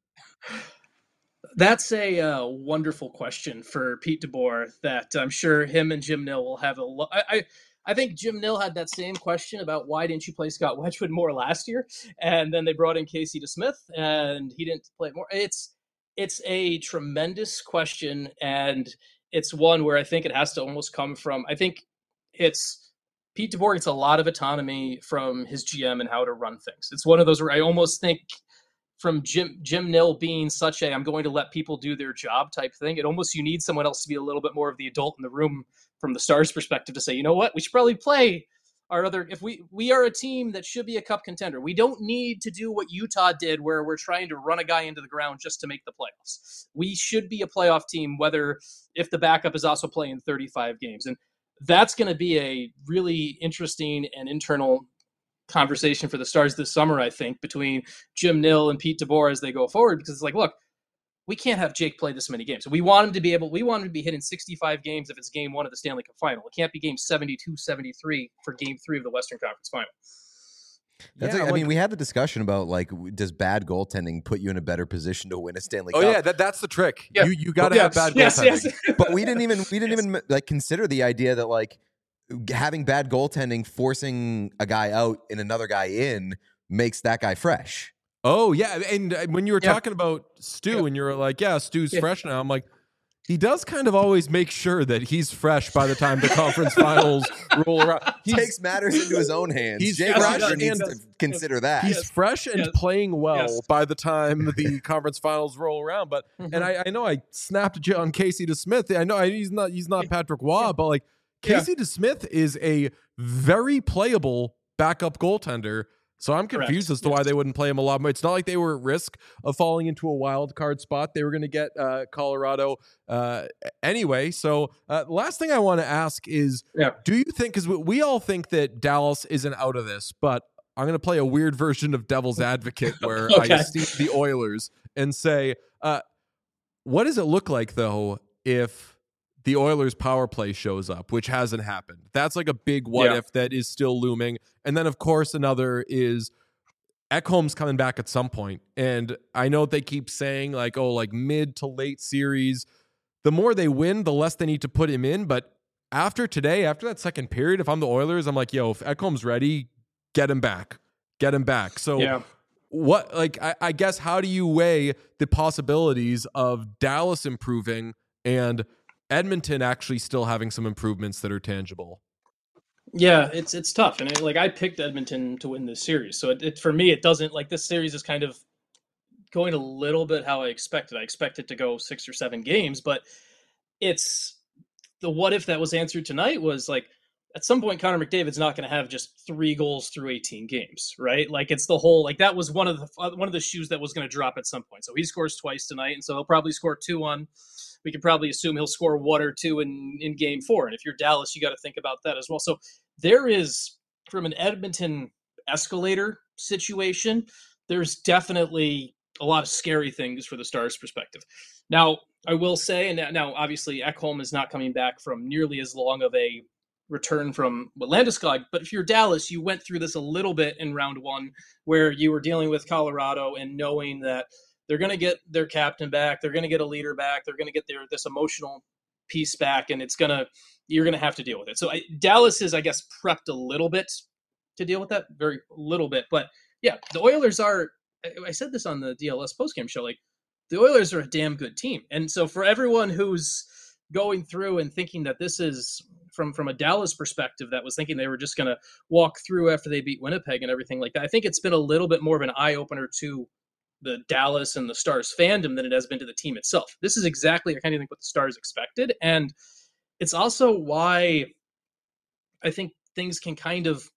That's a wonderful question for Pete DeBoer that I'm sure him and Jim Nill will have I think Jim Nill had that same question about why didn't you play Scott Wedgwood more last year? And then they brought in Casey DeSmith and he didn't play more. It's a tremendous question, and it's one where I think it has to almost come from, I think it's Pete DeBoer gets a lot of autonomy from his GM and how to run things. It's one of those where I almost think from Jim Nill being such a I'm going to let people do their job type thing, it almost you need someone else to be a little bit more of the adult in the room from the Stars perspective to say, you know what, we should probably play our other, if we are a team that should be a cup contender. We don't need to do what Utah did where we're trying to run a guy into the ground just to make the playoffs. We should be a playoff team, whether if the backup is also playing 35 games. And that's going to be a really interesting and internal conversation for the Stars this summer, I think, between Jim Nill and Pete DeBoer as they go forward, because it's like, look, we can't have Jake play this many games. We want him to be hitting 65 games if it's game 1 of the Stanley Cup final. It can't be game 72, 73 for game 3 of the Western Conference final. I mean, we had the discussion about like, does bad goaltending put you in a better position to win a Stanley Cup? Oh yeah, that's the trick. Yeah. You got to have bad goaltending. Yes. But we didn't even like consider the idea that like having bad goaltending, forcing a guy out and another guy in makes that guy fresh. Oh yeah, and when you were talking about Stu, and you were like, "Yeah, Stu's fresh now," I'm like, he does kind of always make sure that he's fresh by the time the conference finals roll around. He takes matters into his own hands. Jake Roger needs to consider that. He's fresh and playing well by the time the conference finals roll around. But and I know I snapped you on Casey DeSmith. I know he's not Patrick Waugh, but like Casey DeSmith is a very playable backup goaltender. So I'm confused as to why they wouldn't play him a lot more. It's not like they were at risk of falling into a wild card spot. They were going to get Colorado anyway. So last thing I want to ask is, do you think, because we all think that Dallas isn't out of this, but I'm going to play a weird version of devil's advocate where I see the Oilers and say, what does it look like, though, if the Oilers power play shows up, which hasn't happened? That's like a big what if that is still looming. And then, of course, another is Ekholm's coming back at some point. And I know they keep saying like, oh, like mid to late series. The more they win, the less they need to put him in. But after today, after that second period, if I'm the Oilers, I'm like, yo, if Ekholm's ready, get him back. Get him back. So what, like, I guess, how do you weigh the possibilities of Dallas improving and Edmonton actually still having some improvements that are tangible? Yeah, it's tough, and I picked Edmonton to win this series, so it for me it doesn't, like, this series is kind of going a little bit how I expected. I expected to go 6 or 7 games, but it's the what if that was answered tonight was like, at some point Connor McDavid's not going to have just 3 goals through 18 games, right? Like, it's the whole, like, that was one of the shoes that was going to drop at some point. So he scores twice tonight, and so he'll probably score 2 on. We can probably assume he'll score 1 or 2 in game 4. And if you're Dallas, you got to think about that as well. So there is, from an Edmonton escalator situation, there's definitely a lot of scary things for the Stars' perspective. Now, I will say, and now obviously Ekholm is not coming back from nearly as long of a return from Landeskog, but if you're Dallas, you went through this a little bit in round 1 where you were dealing with Colorado and knowing that they're going to get their captain back. They're going to get a leader back. They're going to get this emotional piece back, and you're going to have to deal with it. So Dallas is, I guess, prepped a little bit to deal with that, very little bit. But yeah, the Oilers are. I said this on the DLS postgame show. Like, the Oilers are a damn good team, and so for everyone who's going through and thinking that this is from a Dallas perspective, that was thinking they were just going to walk through after they beat Winnipeg and everything like that, I think it's been a little bit more of an eye opener to the Dallas and the Stars fandom than it has been to the team itself. This is exactly, I kind of think, what the Stars expected. And it's also why I think things can kind of,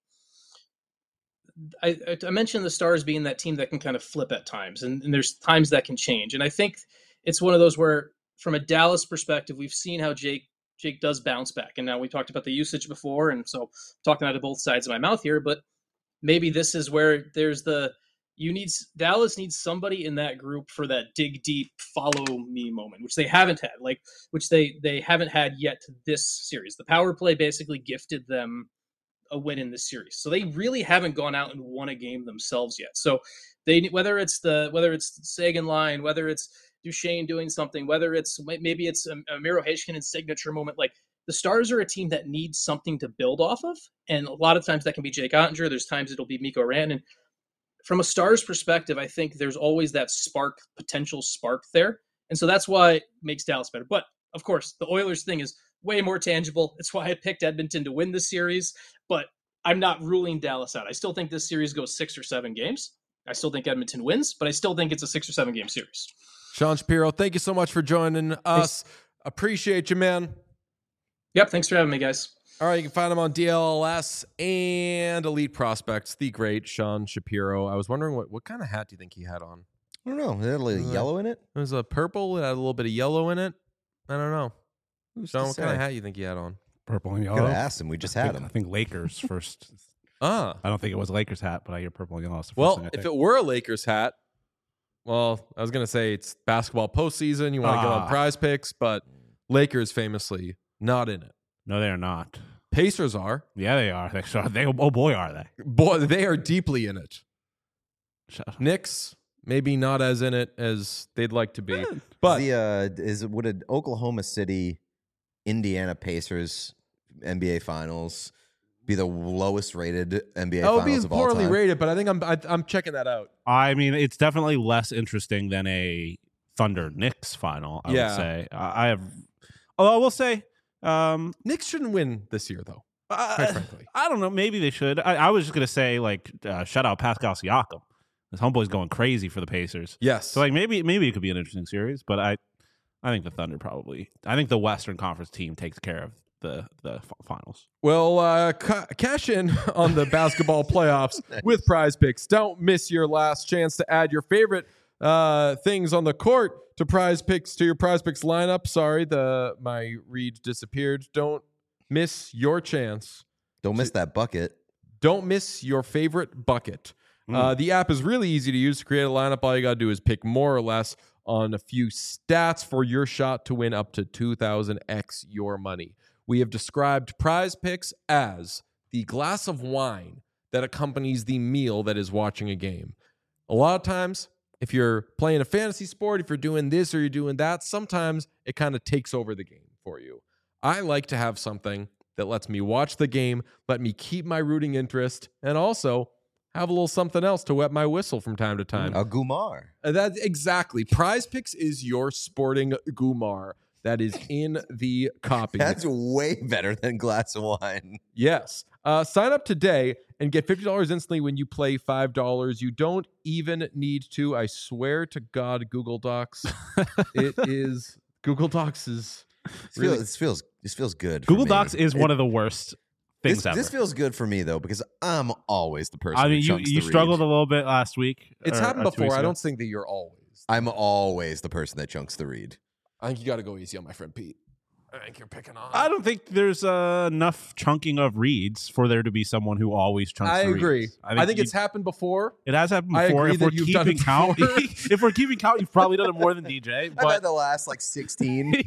I mentioned the Stars being that team that can kind of flip at times, and there's times that can change. And I think it's one of those where, from a Dallas perspective, we've seen how Jake does bounce back. And now we talked about the usage before, and so talking out of both sides of my mouth here, but maybe this is where there's Dallas needs somebody in that group for that dig deep, follow me moment, which they haven't had, which they haven't had yet this series. The power play basically gifted them a win in this series. So they really haven't gone out and won a game themselves yet. So whether it's the Sagan line, whether it's Duchesne doing something, whether maybe it's a Miro Heiskanen signature moment, like, the Stars are a team that needs something to build off of. And a lot of times that can be Jake Ottinger. There's times it'll be Mikko Rantanen. From a Stars perspective, I think there's always that potential spark there. And so that's why it makes Dallas better. But of course, the Oilers thing is way more tangible. It's why I picked Edmonton to win this series, but I'm not ruling Dallas out. I still think this series goes 6 or 7 games. I still think Edmonton wins, but I still think it's a 6 or 7 game series. Sean Shapiro, thank you so much for joining us. Appreciate you, man. Yep. Thanks for having me, guys. All right, you can find him on DLS and Elite Prospects, the great Sean Shapiro. I was wondering what kind of hat do you think he had on? I don't know. It had a little yellow in it? It was a purple. It had a little bit of yellow in it. I don't know. Sean, what kind of say? hat you think he had on? Purple and Could yellow. have asked him. We just had him. I think Lakers first. Ah. I don't think it was a Lakers hat, but I hear purple and yellow. That's the first Well, thing I if think. it were a Lakers hat, well, I was gonna say it's basketball postseason. You want to get on Prize Picks, but Lakers famously not in it. No, they are not. Pacers are. Yeah, they are. Oh boy, are they? Boy, they are deeply in it. Shut up. Knicks maybe not as in it as they'd like to be, but Would an Oklahoma City, Indiana Pacers NBA Finals be the lowest rated NBA it would Finals be of all poorly time? rated. But I think I'm checking that out. I mean, it's definitely less interesting than a Thunder Knicks final. I would say. I have. Although I will say, Knicks shouldn't win this year, though. Quite frankly, I don't know. Maybe they should. I was just gonna say, like, shout out Pascal Siakam. This homeboy's going crazy for the Pacers. yes. So, like, maybe it could be an interesting series. But I think the Thunder probably. I think the Western Conference team takes care of the finals. Well, cash in on the basketball playoffs with Prize Picks. Don't miss your last chance to add your favorite things on the court to your Prize Picks lineup. Sorry, my read disappeared. Don't miss your chance. Don't miss that bucket. Don't miss your favorite bucket. The app is really easy to use. To create a lineup, all you got to do is pick more or less on a few stats for your shot to win up to 2,000x your money. We have described Prize Picks as the glass of wine that accompanies the meal that is watching a game. A lot of times, if you're playing a fantasy sport, if you're doing this or you're doing that, sometimes it kind of takes over the game for you. I like to have something that lets me watch the game, let me keep my rooting interest, and also have a little something else to wet my whistle from time to time. A Gumar. That's exactly. Prize Picks is your sporting Gumar that is in the copy. That's way better than glass of wine. Yes. Sign up today and get $50 instantly when you play $5. You don't even need to. I swear to God, Google Docs. Google Docs is really. This feels good. Google for me. Docs is one of the worst things ever. This feels good for me though because I'm always the person. I mean, who chunks you the struggled read. a little bit last week. It's or happened 2 before. weeks I ago. don't think that you're always. I'm always the person that chunks the read. I think you got to go easy on my friend Pete. I think you're picking on. I don't think there's enough chunking of reads for there to be someone who always chunks. I the agree. reads. I think it's happened before. It has happened I before. agree If that we're you've done keeping it count, before. if we're keeping count, you've probably done it more than DJ. I've had But the last like 16.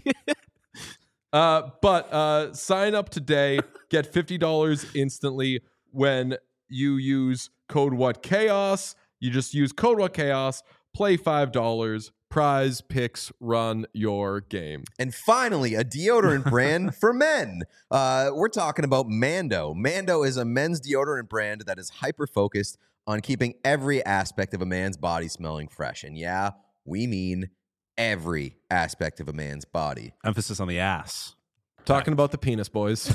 But sign up today. Get $50 instantly when you use code WhatChaos. You just use code WhatChaos. Play $5. Prize Picks, run your game. And finally, a deodorant brand for men. We're talking about Mando. Mando is a men's deodorant brand that is hyper-focused on keeping every aspect of a man's body smelling fresh. And yeah, we mean every aspect of a man's body. emphasis on the ass. Talking about the penis, boys.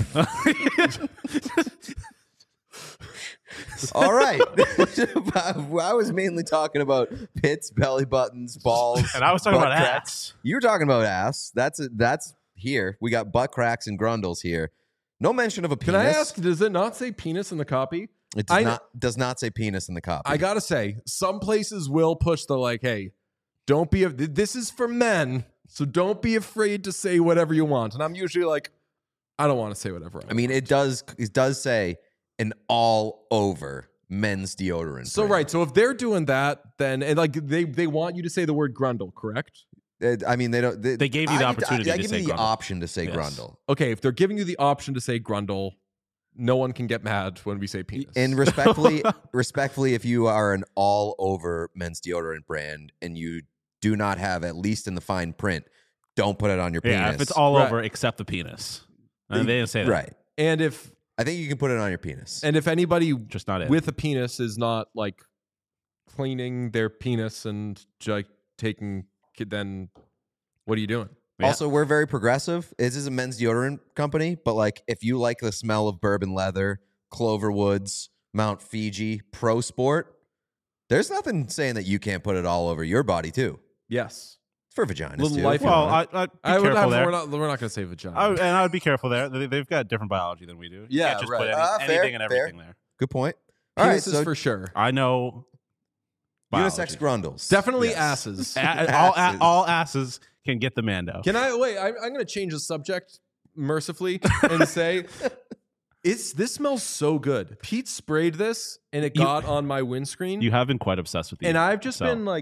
All right. I was mainly talking about pits, belly buttons, balls. And I was talking butt about cracks. ass. You were talking about ass. That's here. We got butt cracks and grundles here. No mention of a Can penis. I ask, does it not say penis in the copy? It does not say penis in the copy. I got to say, some places will push the like, hey, don't be, this is for men, so don't be afraid to say whatever you want. And I'm usually like, I don't want to say whatever I want. I mean, it does say an all over men's deodorant. So brand. right, so if they're doing that, then and like they want you to say the word grundle, correct? I mean, they don't. They gave you the opportunity I to give say you the grundle. option to say Yes. grundle. Okay, if they're giving you the option to say grundle, no one can get mad when we say penis. And respectfully, if you are an all over men's deodorant brand and you do not have, at least in the fine print, don't put it on your penis. Yeah, if it's all Right. over except the penis. And they didn't say that. right, and if I think you can put it on your penis. anybody Just not it. with a penis is not like cleaning their penis and like taking, then what are you doing? Yeah. Also, we're very progressive. This is a men's deodorant company, but like if you like the smell of bourbon leather, Cloverwoods, Mount Fiji, Pro Sport, there's nothing saying that you can't put it all over your body too. Yes. It's for vaginas Little too. life- Well, I'd be careful there. We're not going to say vagina. And I would be careful there. They've got different biology than we do. You Yeah, can't just right. put Fair, anything and everything there. Good point. All right, Penises so for sure. I know unisex biology. grundles. Definitely Yes. asses. All asses can get the Mando. Can I wait? I'm going to change the subject mercifully and say, this smells so good. Pete sprayed this and it got on my windscreen, You have been quite obsessed with these. and I've just so. been like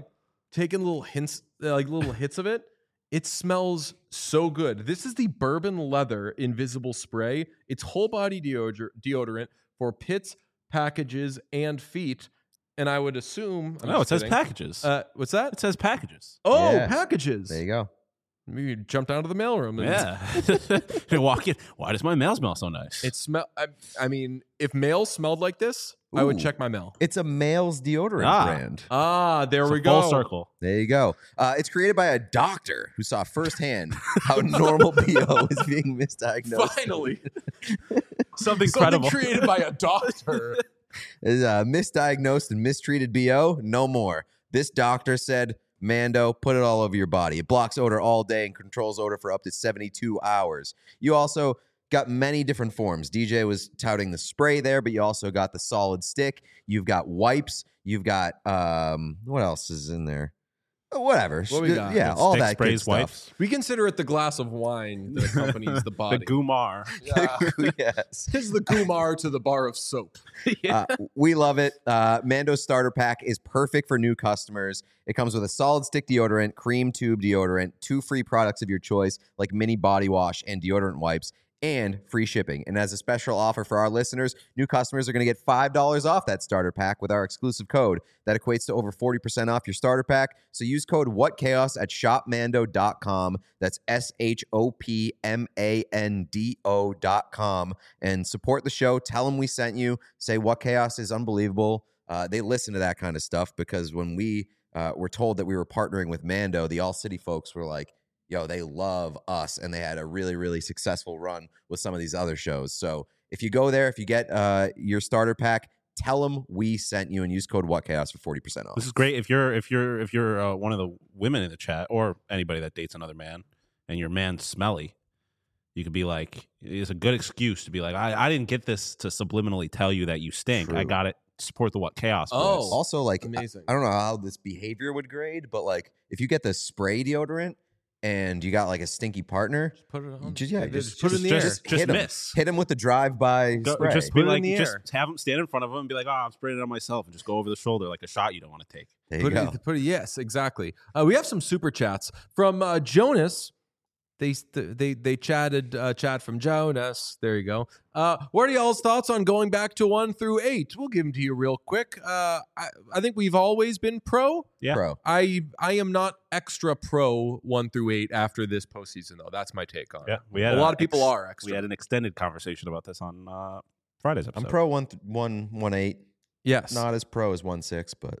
taking little hints, like little hits of it. It smells so good. This is the Bourbon Leather Invisible Spray. It's whole body deodorant for pits, packages, and feet. And I would assume. It says packages. What's that? It says packages. Oh, Yeah. packages. There you go. Maybe you jumped out of the mailroom. And Yeah. They walk in. Why does my mail smell so nice? It smell. I mean, if mail smelled like this, I would Ooh. check my mail. It's a male's deodorant brand. There It's we a go. Full circle. There you go. It's created by a doctor who saw firsthand how normal BO is being misdiagnosed. Finally, Something something credible. created by a doctor. Is misdiagnosed and mistreated BO? No more. This doctor said, Mando, put it all over your body. It blocks odor all day and controls odor for up to 72 hours. You also got many different forms. DJ was touting the spray there, but you also got the solid stick. You've got wipes. You've got, what else is in there? Whatever. What we got? Yeah, Stick, all that sprays, good stuff. wipes. We consider it the glass of wine that accompanies the body. The Gumar. Yeah. Yes. Tis the Gumar to the bar of soap. We love it. Mando starter pack is perfect for new customers. It comes with a solid stick deodorant, cream tube deodorant, 2 free products of your choice like mini body wash and deodorant wipes, and free shipping. And as a special offer for our listeners, new customers are going to get $5 off that starter pack with our exclusive code. That equates to over 40% off your starter pack. So use code WhatChaos at shopmando.com. That's SHOPMANDO.com. And support the show. Tell them we sent you. Say What Chaos is unbelievable. They listen to that kind of stuff because when we were told that we were partnering with Mando, the All City folks were like, yo, they love us, and they had a really, really successful run with some of these other shows. So if you go there, if you get your starter pack, tell them we sent you and use code WhatChaos for 40% off. This is great if you're one of the women in the chat or anybody that dates another man and your man's smelly. You could be like, it's a good excuse to be like, I didn't get this to subliminally tell you that you stink. True. I got it to support the What Chaos. Oh. boys. Also, like, Amazing. I don't know how this behavior would grade, but like if you get the spray deodorant and you got like a stinky partner, Put it on. just put it in the air. just hit 'em. miss. Hit him with the drive-by Go- spray. just Put be it in like, the just air. have him stand in front of him and be like, I'm spraying it on myself, and just go over the shoulder like a shot you don't want to take. there you go. Yes, exactly. We have some super chats from Jonas. They chatted chat from Jonas. There you go. What are y'all's thoughts on going back to 1 through 8? We'll give them to you real quick. I think we've always been pro. Yeah. Bro. I am not extra pro 1 through 8 after this postseason though. That's my take on it. Yeah, we had A lot of people are extra. We had an extended conversation about this on Friday's episode. I'm pro 1-8. Yes. Not as pro as 1-6, but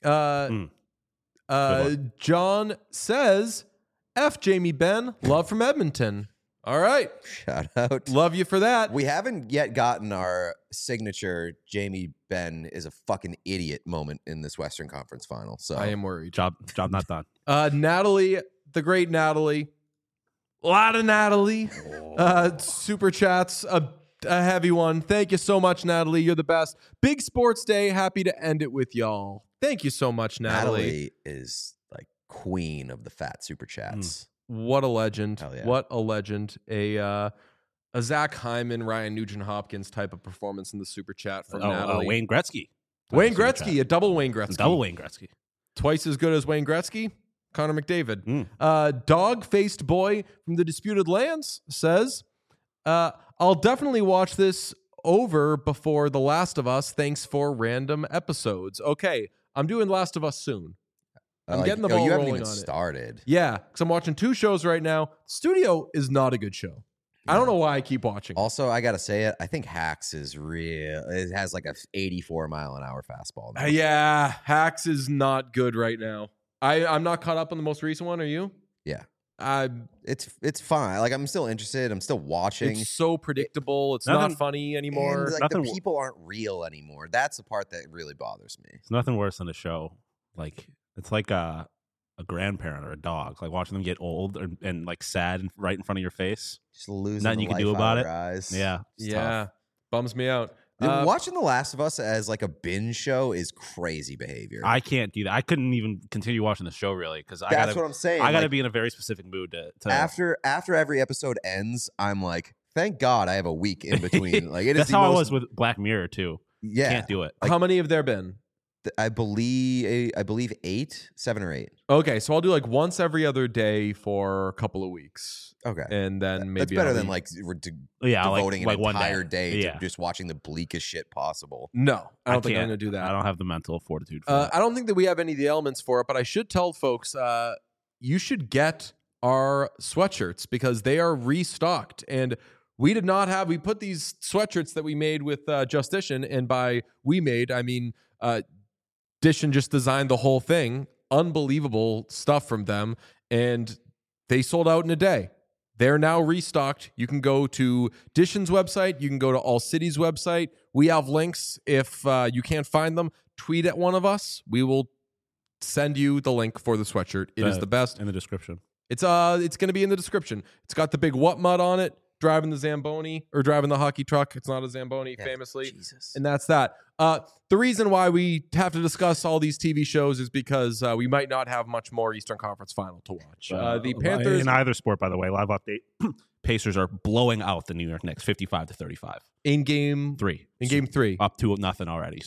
Good John says, F Jamie Ben, love from Edmonton. All right. shout out. Love you for that. We haven't yet gotten our signature Jamie Ben is a fucking idiot moment in this Western Conference final. So I am worried. job not done. Natalie, the great Natalie. A lot of Natalie. Super chats, a heavy one. Thank you so much, Natalie. You're the best. Big sports day. Happy to end it with y'all. Thank you so much, Natalie. Natalie is like queen of the fat super chats. What a legend. Hell yeah. What a legend. A Zach Hyman, Ryan Nugent Hopkins type of performance in the super chat from Natalie. Wayne Gretzky. Wayne Super Gretzky, chat. a double Wayne Gretzky. Double Wayne Gretzky. Twice as good as Wayne Gretzky. Connor McDavid. Mm. Dog-faced boy from the Disputed Lands says, I'll definitely watch this over before The Last of Us. Thanks for random episodes. Okay, I'm doing Last of Us soon. I'm getting the ball you haven't rolling even on it. started. Yeah, because I'm watching 2 shows right now. Studio is not a good show. I don't know why I keep watching. Also, I gotta say it. I think Hacks is real. It has like a 84-mile-an-hour fastball. now. Yeah, Hacks is not good right now. I'm not caught up on the most recent one. Are you? Yeah. I It's fine. Like I'm still interested. I'm still watching. It's so predictable. It's Nothing- not funny anymore. And, like Nothing- the people aren't real anymore. That's the part that really bothers me. It's nothing worse than a show. Like it's like a grandparent or a dog. Like watching them get old and like sad right in front of your face. Just losing Nothing the you can life do about out it. of our eyes. Yeah. It's Yeah, tough. bums me out. Dude, watching The Last of Us as like a binge show is crazy behavior. I can't do that. I couldn't even continue watching the show really because I That's gotta what I'm saying. I gotta Like, be in a very specific mood to after every episode ends, I'm like, thank God I have a week in between. Like it is That's the how I most- was with Black Mirror too. Yeah. Can't do it. How many have there been? I believe 7 or 8. Okay, so I'll do like once every other day for a couple of weeks, Okay. and then maybe That's better I'll than be- like Yeah, devoting like an one entire day Yeah. to just watching the bleakest shit possible. No, I don't think I'm can't. going to do that. I don't have the mental fortitude for that. I don't think that we have any of the elements for it, but I should tell folks you should get our sweatshirts because they are restocked. And we did not have, we put these sweatshirts that we made with Justition, and by we made, I mean Dishin just designed the whole thing. Unbelievable stuff from them. And they sold out in a day. They're now restocked. You can go to Dishin's website. You can go to All City's website. We have links. If you can't find them, tweet at one of us. We will send you the link for the sweatshirt. It is the best. In the description. It's going to be in the description. It's got the big what mud on it, driving the Zamboni or driving the hockey truck. It's not a Zamboni, famously. Jesus. And that's that. The reason why we have to discuss all these TV shows is because we might not have much more Eastern Conference Final to watch. The Panthers in either sport, by the way, live update. Pacers are blowing out the New York Knicks 55-35. in game 3. in game 3. Up to nothing already.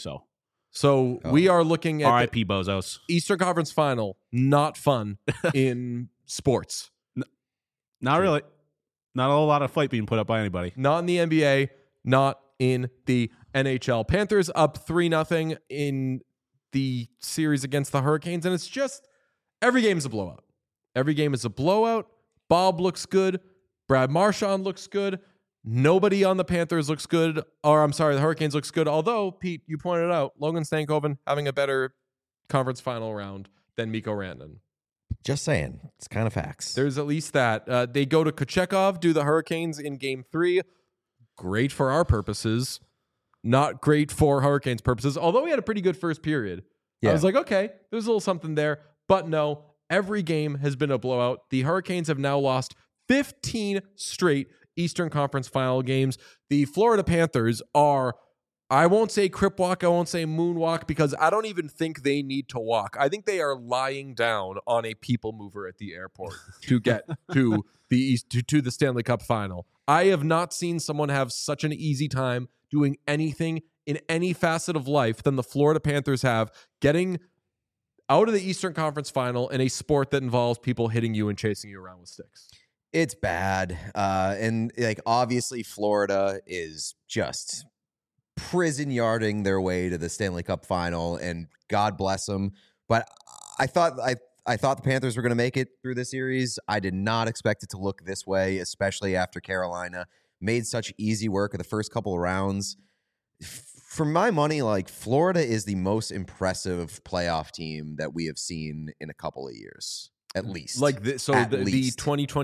So We are looking at RIP Bozos. the Eastern Conference Final. Not fun in sports. Not really. Not a whole lot of fight being put up by anybody. Not in the NBA, not in the NHL. Panthers up 3-0 in the series against the Hurricanes, and it's just every game is a blowout. Every game is a blowout. Bob looks good. Brad Marchand looks good. Nobody on the Panthers looks good. Or I'm sorry, the Hurricanes looks good. Although, Pete, you pointed out Logan Stankoven having a better conference final round than Mikko Rantanen. Just saying. It's kind of facts. There's at least that. They go to Kochekov, do the Hurricanes in game 3. Great for our purposes. Not great for Hurricanes purposes. Although we had a pretty good first period. Yeah. I was like, okay, there's a little something there. But no, every game has been a blowout. The Hurricanes have now lost 15 straight Eastern Conference Final games. The Florida Panthers are, I won't say crip walk, I won't say moonwalk, because I don't even think they need to walk. I think they are lying down on a people mover at the airport to get to the to the Stanley Cup Final. I have not seen someone have such an easy time doing anything in any facet of life than the Florida Panthers have, getting out of the Eastern Conference Final in a sport that involves people hitting you and chasing you around with sticks. It's bad. And like obviously Florida is just prison yarding their way to the Stanley Cup Final, and God bless them. But I thought the Panthers were going to make it through the series. I did not expect it to look this way, especially after Carolina made such easy work of the first couple of rounds. For my money, like Florida is the most impressive playoff team that we have seen in a couple of years, at least. Like the 2024-25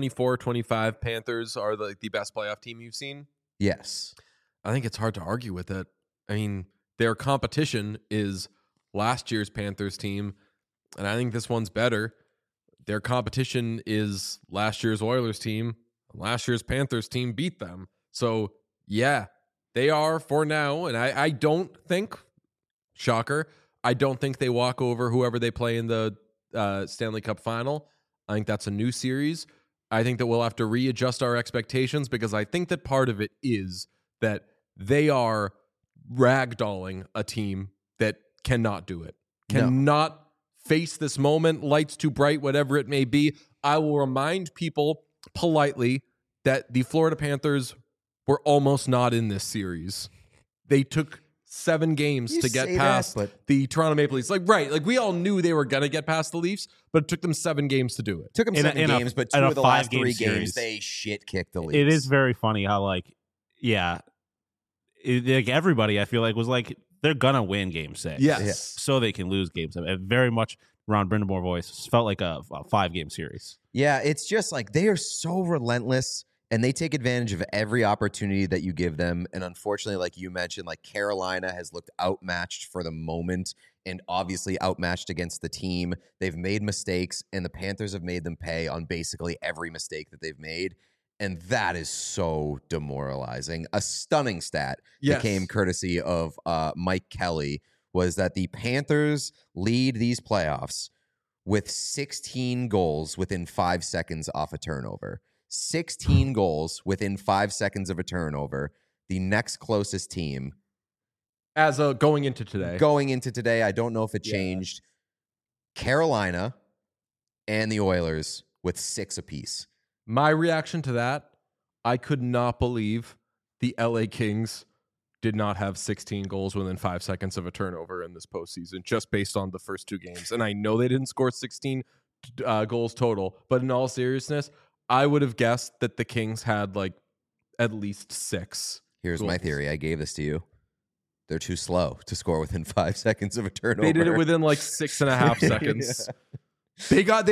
Panthers are the best playoff team you've seen? Yes. I think it's hard to argue with it. I mean, their competition is last year's Panthers team, and I think this one's better. Their competition is last year's Oilers team. Last year's Panthers team beat them. So, yeah, they are for now. And I don't think, shocker, I don't think they walk over whoever they play in the Stanley Cup Final. I think that's a new series. I think that we'll have to readjust our expectations because I think that part of it is that they are ragdolling a team that cannot do it, cannot face this moment, lights too bright, whatever it may be. I will remind people politely that the Florida Panthers were almost not in this series. They took 7 games to get past the Toronto Maple Leafs. Like we all knew they were going to get past the Leafs, but it took them 7 games to do it. Took them 7 games, but 2 of the last 3 series, games, they shit kicked the Leafs. It is very funny how, like, like everybody, I feel like, was like, they're going to win game 6. Yes. So they can lose game 7. It very much, Ron Brindamore voice, felt like a 5-game series. Yeah, it's just like they are so relentless. And they take advantage of every opportunity that you give them. And unfortunately, like you mentioned, like Carolina has looked outmatched for the moment and obviously outmatched against the team. They've made mistakes, and the Panthers have made them pay on basically every mistake that they've made. And that is so demoralizing. A stunning stat that came courtesy of Mike Kelly was that the Panthers lead these playoffs with 16 goals within 5 seconds off a turnover. 16 goals within 5 seconds of a turnover. The next closest team As a going into today. Going into today, I don't know if it changed. Carolina and the Oilers with 6 apiece. My reaction to that, I could not believe the LA Kings did not have 16 goals within 5 seconds of a turnover in this postseason, just based on the first 2 games. And I know they didn't score 16 goals total, but in all seriousness, I would have guessed that the Kings had like at least 6. Here's my theory. I gave this to you. They're too slow to score within 5 seconds of a turnover. They did it within like 6.5 seconds. They got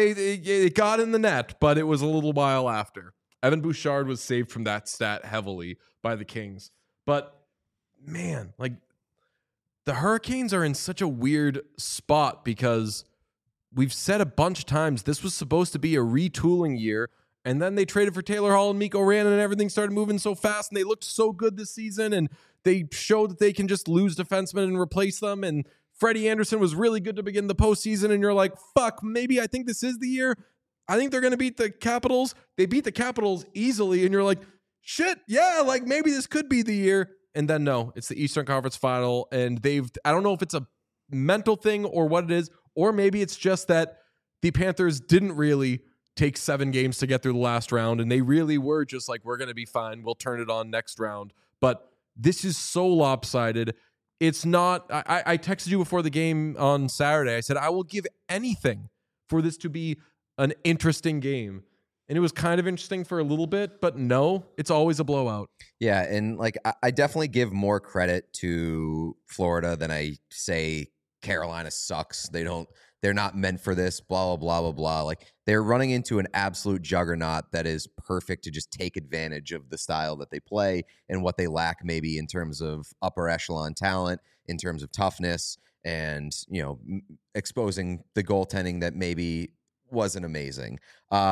in the net, but it was a little while after. Evan Bouchard was saved from that stat heavily by the Kings. But man, like the Hurricanes are in such a weird spot because we've said a bunch of times this was supposed to be a retooling year, and then they traded for Taylor Hall and Mikko Rantanen, and everything started moving so fast, and they looked so good this season, and they showed that they can just lose defensemen and replace them, and Freddie Anderson was really good to begin the postseason, and you're like, fuck, maybe I think this is the year. I think they're going to beat the Capitals. They beat the Capitals easily, and you're like, shit, yeah, like maybe this could be the year. And then no, it's the Eastern Conference Final, and I don't know if it's a mental thing or what it is, or maybe it's just that the Panthers didn't really take 7 games to get through the last round, and they really were just like, we're going to be fine. We'll turn it on next round. But this is so lopsided. It's not, I texted you before the game on Saturday. I said, I will give anything for this to be an interesting game. And it was kind of interesting for a little bit, but no, it's always a blowout. Yeah, and like I definitely give more credit to Florida than I say Carolina sucks. They're not meant for this, blah, blah, blah, blah, blah. Like they're running into an absolute juggernaut that is perfect to just take advantage of the style that they play and what they lack maybe in terms of upper echelon talent, in terms of toughness, and, you know, exposing the goaltending that maybe wasn't amazing.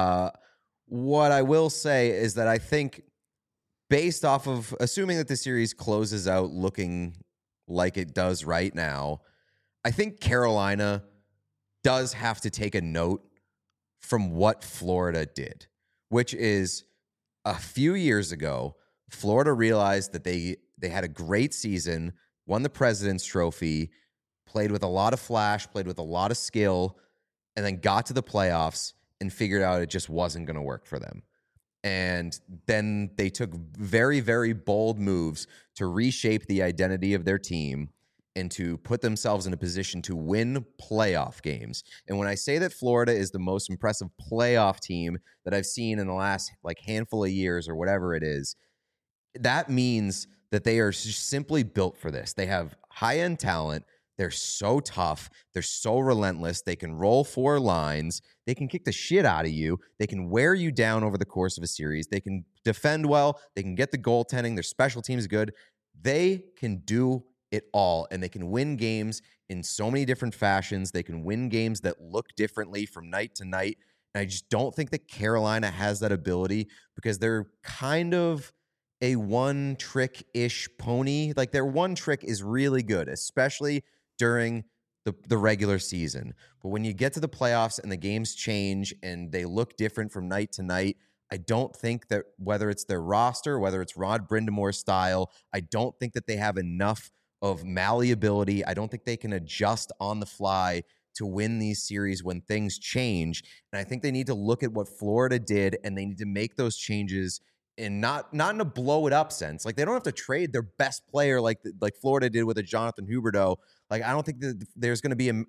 What I will say is that I think based off of assuming that the series closes out looking like it does right now, I think Carolina does have to take a note from what Florida did, which is a few years ago, Florida realized that they had a great season, won the President's Trophy, played with a lot of flash, played with a lot of skill, and then got to the playoffs and figured out it just wasn't going to work for them. And then they took very, very bold moves to reshape the identity of their team and to put themselves in a position to win playoff games. And when I say that Florida is the most impressive playoff team that I've seen in the last like handful of years or whatever it is, that means that they are simply built for this. They have high-end talent. They're so tough. They're so relentless. They can roll 4 lines. They can kick the shit out of you. They can wear you down over the course of a series. They can defend well. They can get the goaltending. Their special team's good. They can do it all, and they can win games in so many different fashions. They can win games that look differently from night to night. And I just don't think that Carolina has that ability because they're kind of a one-trick-ish pony. Like their one trick is really good, especially during the regular season. But when you get to the playoffs and the games change and they look different from night to night, I don't think that whether it's their roster, whether it's Rod Brindamore's style, I don't think that they have enough of malleability. I don't think they can adjust on the fly to win these series when things change. And I think they need to look at what Florida did and they need to make those changes and not in a blow it up sense. Like they don't have to trade their best player like Florida did with a Jonathan Huberdeau. Like I don't think that there's going to be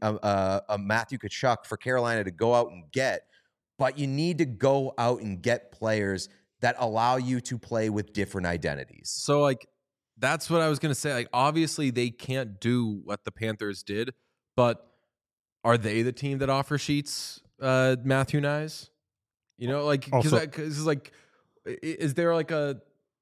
a Matthew Tkachuk for Carolina to go out and get, but you need to go out and get players that allow you to play with different identities. So like that's what I was going to say. Like obviously they can't do what the Panthers did, but are they the team that offer sheets Matthew Knies? You know, like because like. Is there like are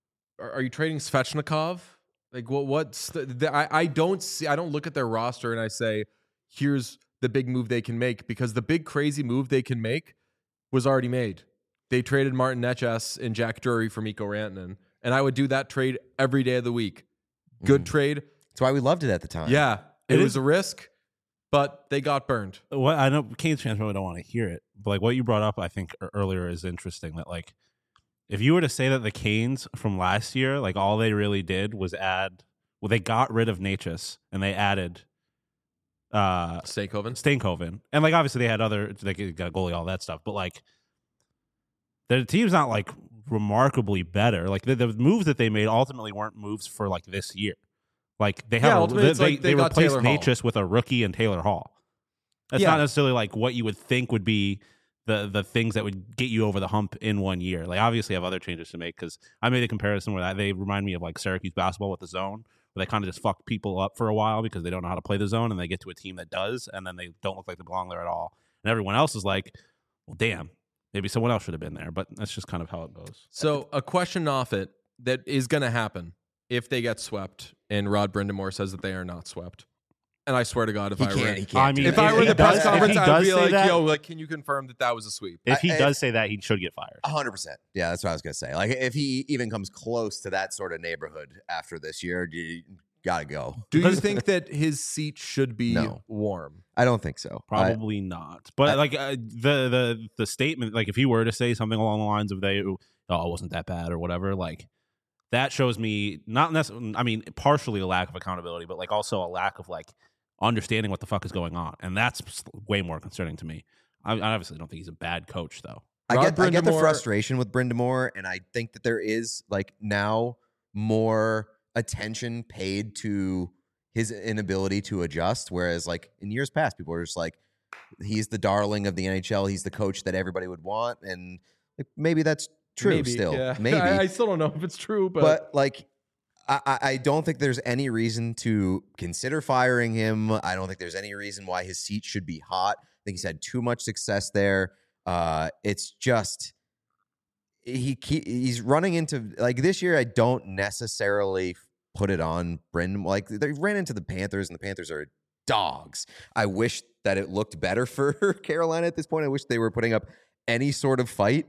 you trading Svechnikov? Like what's I don't look at their roster and I say, here's the big move they can make, because the big crazy move they can make was already made. They traded Martin Necas and Jack Drury for Mikko Rantanen, and I would do that trade every day of the week. Good trade. That's why we loved it at the time. Yeah, it was a risk, but they got burned. What I know, Canes fans probably don't want to hear it, but like what you brought up, I think earlier is interesting. That like, if you were to say that the Canes from last year, like all they really did was add Well, they got rid of Natchez and they added Steenkoven. And like obviously they had they got a goalie, all that stuff, but like the team's not like remarkably better. Like the moves that they made ultimately weren't moves for like this year. Like they have they replaced Natchez with a rookie and Taylor Hall. That's not necessarily like what you would think would be the things that would get you over the hump in 1 year. Like obviously have other changes to make, because I made a comparison where they remind me of like Syracuse basketball with the zone, where they kind of just fuck people up for a while because they don't know how to play the zone, and they get to a team that does, and then they don't look like they belong there at all. And everyone else is like, well, damn, maybe someone else should have been there. But that's just kind of how it goes. So a question off it that is going to happen if they get swept, and Rod Brindamore says that they are not swept. And I swear to God, if I were in the press conference, I'd be like, yo, like, can you confirm that was a sweep? If he does say that, he should get fired. 100%. Yeah, that's what I was going to say. Like, if he even comes close to that sort of neighborhood after this year, you got to go. Do you think that his seat should be warm? I don't think so. Probably not. But the statement, like if he were to say something along the lines of it wasn't that bad or whatever, like that shows me not necessarily, I mean, partially a lack of accountability, but like also a lack of like understanding what the fuck is going on. And that's way more concerning to me. I obviously don't think he's a bad coach, though. I get the frustration with Brindamore, and I think that there is like now more attention paid to his inability to adjust, whereas like in years past, people were just like, he's the darling of the NHL, he's the coach that everybody would want, and like, maybe that's true. Maybe I still don't know if it's true, but like I don't think there's any reason to consider firing him. I don't think there's any reason why his seat should be hot. I think he's had too much success there. It's just he's running into like this year. I don't necessarily put it on Brindamore. Like they ran into the Panthers, and the Panthers are dogs. I wish that it looked better for Carolina at this point. I wish they were putting up any sort of fight.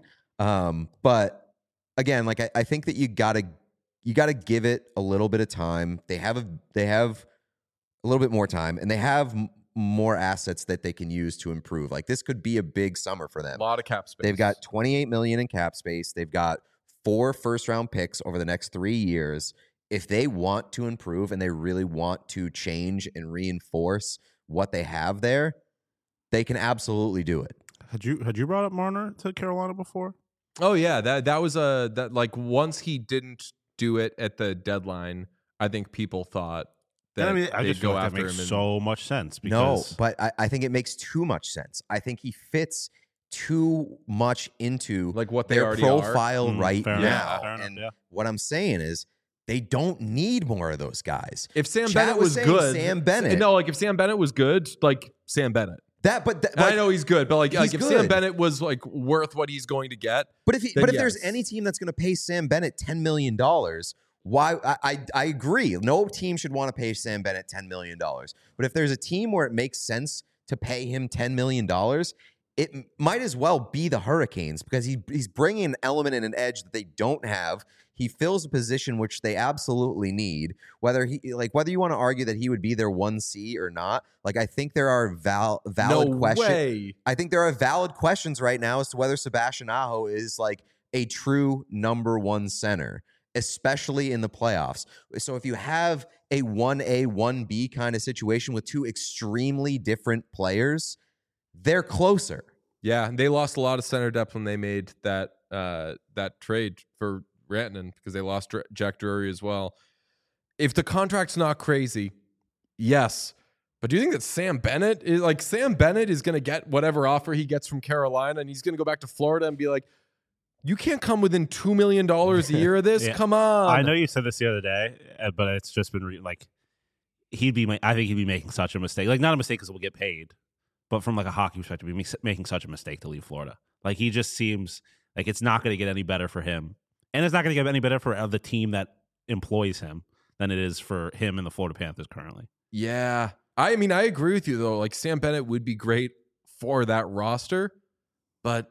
But again, like I think that you gotta give it a little bit of time. They have a little bit more time, and they have more assets that they can use to improve. Like this could be a big summer for them. A lot of cap space. They've got $28 million in cap space. They've got 4 first-round picks over the next 3 years. If they want to improve and they really want to change and reinforce what they have there, they can absolutely do it. Had you brought up Marner to Carolina before? Oh yeah, that was that like once he didn't do it at the deadline, I think people thought that I they'd just feel go like after that makes him. So much sense. Because... No, but I think it makes too much sense. I think he fits too much into like what they their already profile are. right fair now. enough, And what I'm saying is they don't need more of those guys. If Sam Chad Bennett was good, Sam Bennett. No, like if Sam Bennett was good, like Sam Bennett. I know he's good, but like if good. Sam Bennett was like worth what he's going to get, but if there's any team that's going to pay Sam Bennett $10 million, why? I agree. No team should want to pay Sam Bennett $10 million. But if there's a team where it makes sense to pay him $10 million, it might as well be the Hurricanes, because he's bringing an element and an edge that they don't have. He fills a position which they absolutely need. Whether you want to argue that he would be their 1C or not, like I think there are valid questions. I think there are valid questions right now as to whether Sebastian Aho is like a true number 1 center, especially in the playoffs. So if you have a 1A, 1B kind of situation with 2 extremely different players, they're closer. Yeah, they lost a lot of center depth when they made that trade for Rantanen, because they lost Jack Drury as well. If the contract's not crazy, yes. But do you think that Sam Bennett is going to get whatever offer he gets from Carolina, and he's going to go back to Florida and be like, you can't come within $2 million a year of this? Yeah. Come on. I know you said this the other day, but it's just been I think he'd be making such a mistake. Like, not a mistake because we'll get paid, but from like a hockey perspective, he'd be making such a mistake to leave Florida. Like, he just seems like it's not going to get any better for him. And it's not going to get any better for the team that employs him than it is for him and the Florida Panthers currently. Yeah. I mean, I agree with you, though. Like, Sam Bennett would be great for that roster, but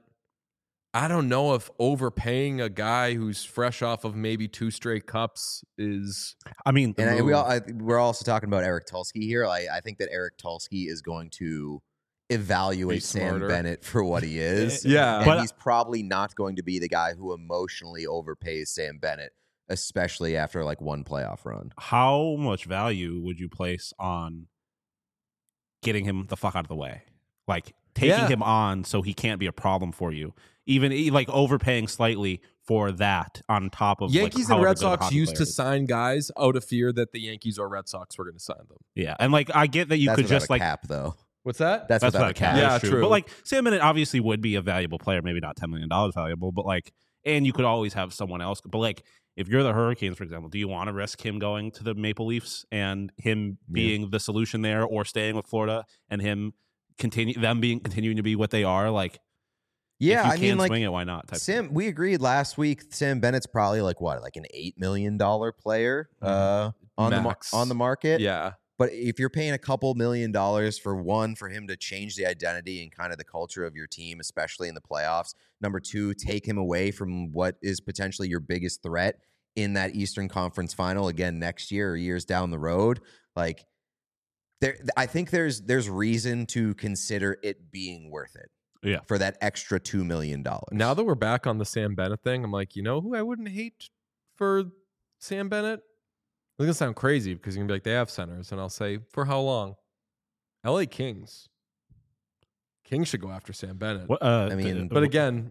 I don't know if overpaying a guy who's fresh off of maybe 2 straight cups is. I mean, and we're also talking about Eric Tulsky here. I think that Eric Tulsky is going to evaluate Sam Bennett for what he is. Yeah. And he's probably not going to be the guy who emotionally overpays Sam Bennett especially after like one playoff run. How much value would you place on getting him the fuck out of the way? Like taking him on so he can't be a problem for you. Even like overpaying slightly for that on top of Yankees like, and Red however good a Sox hockey used player to is. sign guys out of fear that the Yankees or Red Sox were going to sign them. Yeah, and like I get that you That's could without just a like cap though. What's that? That's without a cap. Yeah, That's true. But like Sam Bennett obviously would be a valuable player, maybe not $10 million valuable, but like, and you could always have someone else. But like, if you're the Hurricanes, for example, do you want to risk him going to the Maple Leafs and him being the solution there, or staying with Florida and him continuing to be what they are? Like, Yeah, if you I mean, can like swing it, why not? Type Sam, we agreed last week. Sam Bennett's probably like what, like an $8 million player on Max. the market. Yeah. But if you're paying a couple $1 million for him to change the identity and kind of the culture of your team, especially in the playoffs. Number two, take him away from what is potentially your biggest threat in that Eastern Conference final again next year or years down the road. Like, I think there's reason to consider it being worth it. Yeah. For that extra $2 million. Now that we're back on the Sam Bennett thing, I'm like, you know who I wouldn't hate for Sam Bennett? It's going to sound crazy because you're going to be like, they have centers. And I'll say, for how long? LA Kings. Kings should go after Sam Bennett. What, I mean, But again,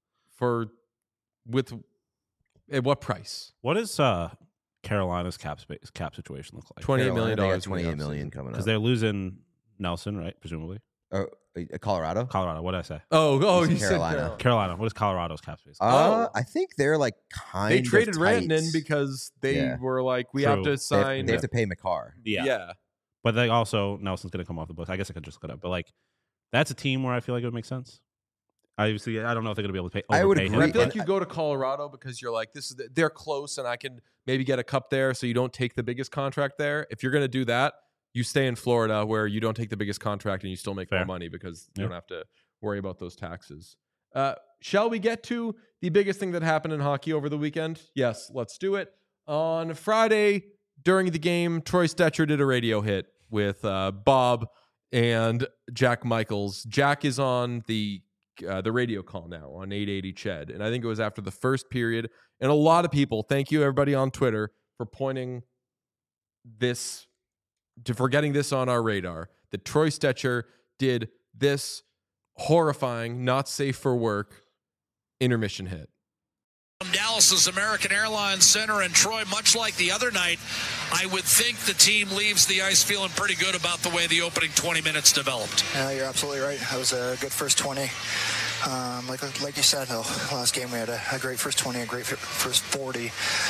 at what price? what does Carolina's cap situation look like? $28 million. They got in the $28 million offseason. coming Because up. they're losing Nelson, right? Presumably. Colorado? Colorado. What did I say? Oh, He's you in said Carolina. Carolina. What is Colorado's cap space? I think they're like kind They of traded tight. Rantanen because they were like, we True. have to sign. They have to pay McCarr. Yeah. But they also, Nelson's going to come off the books. I guess I could just look it up. But like, that's a team where I feel like it would make sense. Obviously, I don't know if they're going to be able to pay. I would overpay agree. And I him, feel like but- you go to Colorado because you're like, they're close and I can maybe get a cup there, so you don't take the biggest contract there. If you're going to do that, you stay in Florida where you don't take the biggest contract and you still make Fair. more money because you don't have to worry about those taxes. Shall we get to the biggest thing that happened in hockey over the weekend? Yes, let's do it. On Friday during the game, Troy Stetcher did a radio hit with Bob and Jack Michaels. Jack is on the radio call now on 880 Ched. And I think it was after the first period. And a lot of people, thank you everybody on Twitter for pointing this, for getting this on our radar, that Troy Stetcher did this horrifying, not safe for work intermission hit. Dallas's American Airlines Center in Troy, much like the other night, I would think the team leaves the ice feeling pretty good about the way the opening 20 minutes developed. Yeah, you're absolutely right. That was a good first 20. Like you said, last game we had a great first 20, a great first 40.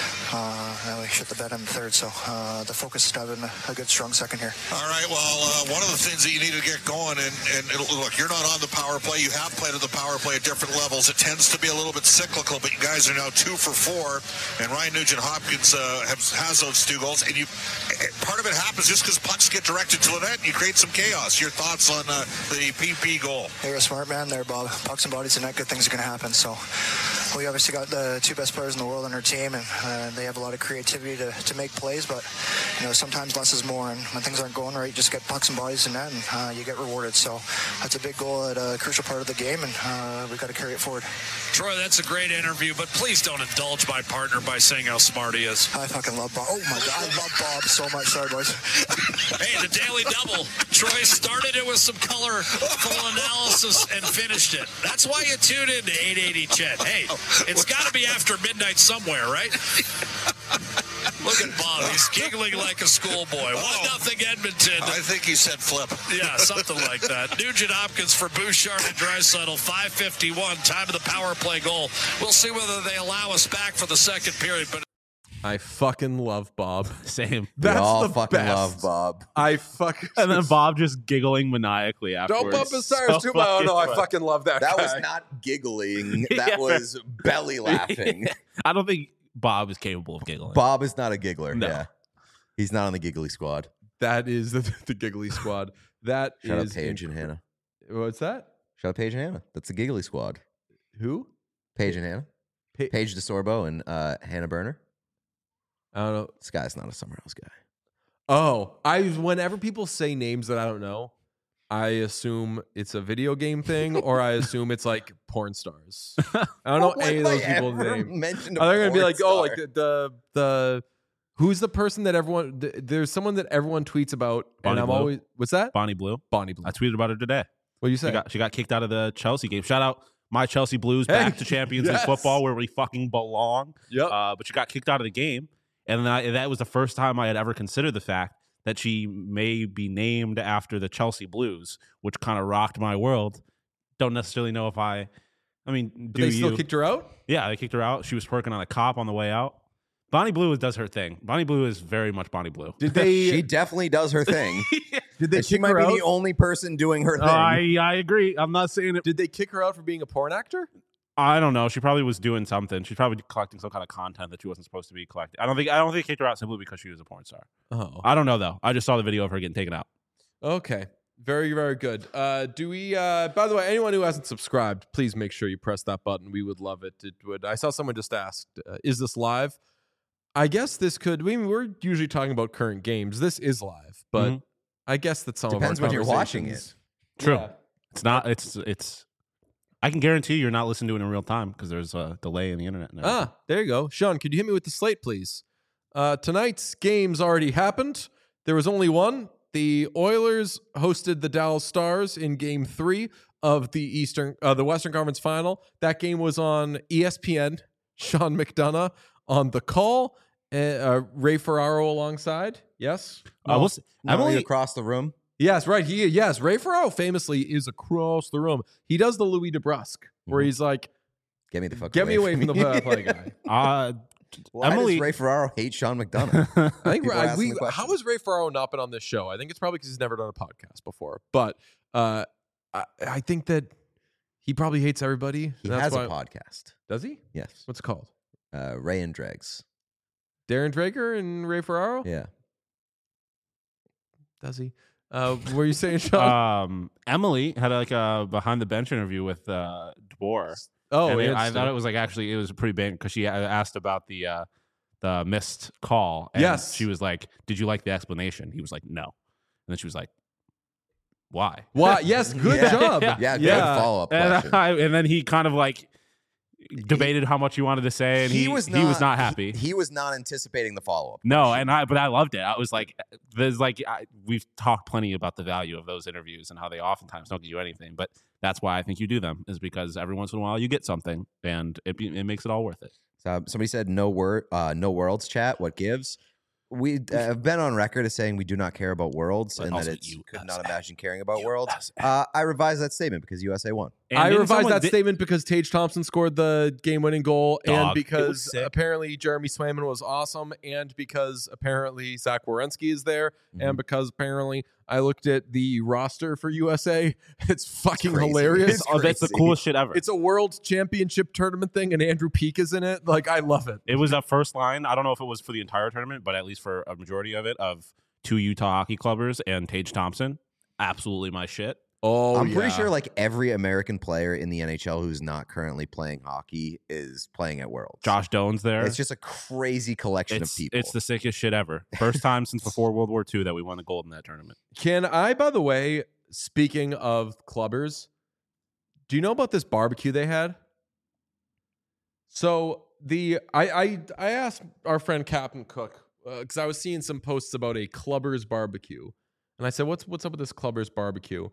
And we shit the bed in the third, so the focus is having a good, strong second here. All right, well, one of the things that you need to get going, and look, you're not on the power play. You have played at the power play at different levels. It tends to be a little bit cyclical, but you guys are now 2 for 4, and Ryan Nugent-Hopkins has those 2 goals. And part of it happens just because pucks get directed to the net, and you create some chaos. Your thoughts on the PP goal? You're a smart man there, Bob. Pucks and bodies and net, good things are going to happen. So we obviously got the 2 best players in the world on our team, and they have a lot of creativity to make plays, but sometimes less is more, and when things aren't going right, you just get pucks and bodies in net, and you get rewarded. So that's a big goal at a crucial part of the game, and we've got to carry it forward. Troy, that's a great interview, but please don't indulge my partner by saying how smart he is. I fucking love Bob. Oh my God, I love Bob so much. Sorry, boys. Hey, the Daily Double. Troy started it with some colorful analysis and finished it. That's why you tune in to 880 Chet. Hey, it's got to be after midnight somewhere, right? Look at Bob. He's giggling like a schoolboy. 1-0 Edmonton. I think he said flip. Yeah, something like that. Nugent-Hopkins for Bouchard and Draisaitl. 5:51. Time of the power play goal. We'll see whether they allow us back for the second period. But I fucking love Bob. Same. That's we all the fucking best. love Bob. I fucking And then Bob just giggling maniacally afterwards. don't bump his tires too much. Oh no, I fucking love that That guy. was not giggling. That Yeah. was belly laughing. I don't think Bob is capable of giggling. Bob is not a giggler. No. Yeah. He's not on the giggly squad. That is the giggly squad. That Shout out is Paige and Hannah. What's that? Shout out Paige and Hannah. That's the giggly squad. Who? Paige and Hannah. Paige DeSorbo and Hannah Berner. I don't know. This guy's not a Summer House guy. Oh, whenever people say names that I don't know, I assume it's a video game thing, or I assume it's like porn stars. I don't know any of those people's names. Mentioned Are they going to be like, oh, like the who's the person that everyone? There's someone that everyone tweets about, Bonnie and I'm Blue? always what's that? Bonnie Blue. Bonnie Blue. I tweeted about her today. What do you say? She got kicked out of the Chelsea game. Shout out my Chelsea Blues Hey, back to Champions League yes. football where we fucking belong. Yep. But she got kicked out of the game, and that was the first time I had ever considered the fact that she may be named after the Chelsea Blues, which kind of rocked my world. Don't necessarily know if I mean, But do they you? still kicked her out? Yeah, they kicked her out. She was twerking on a cop on the way out. Bonnie Blue does her thing. Bonnie Blue is very much Bonnie Blue. Did they? She definitely does her thing. Did they And she kick might her be out? the only person doing her thing. I agree. I'm not saying it. Did they kick her out for being a porn actor? I don't know. She probably was doing something. She's probably collecting some kind of content that she wasn't supposed to be collecting. I don't think they kicked her out simply because she was a porn star. Oh, I don't know though. I just saw the video of her getting taken out. okay. Very, very good. Do we? By the way, anyone who hasn't subscribed, please make sure you press that button. We would love it. It would. I saw someone just asked, "Is this live?" I guess this could. We're usually talking about current games. This is live, but Mhm. I guess that some Depends of our when you're watching conversations- True. Yeah. It's not. It's. I can guarantee you're not listening to it in real time because there's a delay in the internet now. Ah, there you go. Sean, could you hit me with the slate, please? Tonight's games already happened. There was only one. The Oilers hosted the Dallas Stars in Game 3 of the Western Conference Final. That game was on ESPN. Sean McDonough on the call. Ray Ferraro alongside. Yes. We'll see. Emily across the room. Yes, right. Yes, Ray Ferraro famously is across the room. He does the Louis DeBrusque, where he's like, Get me the fuck "Get me away from the play guy." Why Emily- does Ray Ferraro hate Sean McDonough? I think People are asking the question. how has Ray Ferraro not been on this show? I think it's probably because he's never done a podcast before. But I think that he probably hates everybody. He and has that's a why- podcast. Does he? Yes. What's it called? Ray and Dregs. Darren Drager and Ray Ferraro? Yeah. Does he? Were you saying, Sean? Emily had like a behind the bench interview with DeBoer. Oh, And I interesting. thought it was like actually it was pretty big because she asked about the missed call. And Yes. she was like, "Did you like the explanation?" He was like, "No," and then she was like, "Why?" Why? Yes, good Yeah. job. Yeah, good follow-up question. And then he kind of like debated how much he wanted to say, and he was not happy. He was not anticipating the follow-up. No, but I loved it. I was like, we've talked plenty about the value of those interviews and how they oftentimes don't get you anything, but that's why I think you do them, is because every once in a while you get something, and it makes it all worth it. So somebody said no worlds chat. What gives? We have been on record as saying we do not care about worlds, But and also that it's could USA. not imagine caring about worlds. USA. I revised that statement because USA won. And I didn't revised someone- that statement because Tage Thompson scored the game-winning goal, Dog, and it was because sick. apparently Jeremy Swayman was awesome, and because apparently Zach Werenski is there, Mm-hmm. and because apparently I looked at the roster for USA. It's fucking crazy. hilarious. It's That's the crazy. coolest shit ever. It's a world championship tournament thing, and Andrew Peak is in it. Like, I love it. It was a first line. I don't know if it was for the entire tournament, but at least for a majority of it, of 2 Utah hockey clubbers and Tage Thompson. Absolutely my shit. Oh, I'm pretty sure like every American player in the NHL who's not currently playing hockey is playing at Worlds. Josh Doan's there. It's just a crazy collection of people. It's the sickest shit ever. First time since before World War II that we won the gold in that tournament. Can I, by the way, speaking of clubbers, do you know about this barbecue they had? So I asked our friend Captain Cook because I was seeing some posts about a clubbers barbecue, and I said, "What's up with this clubbers barbecue?"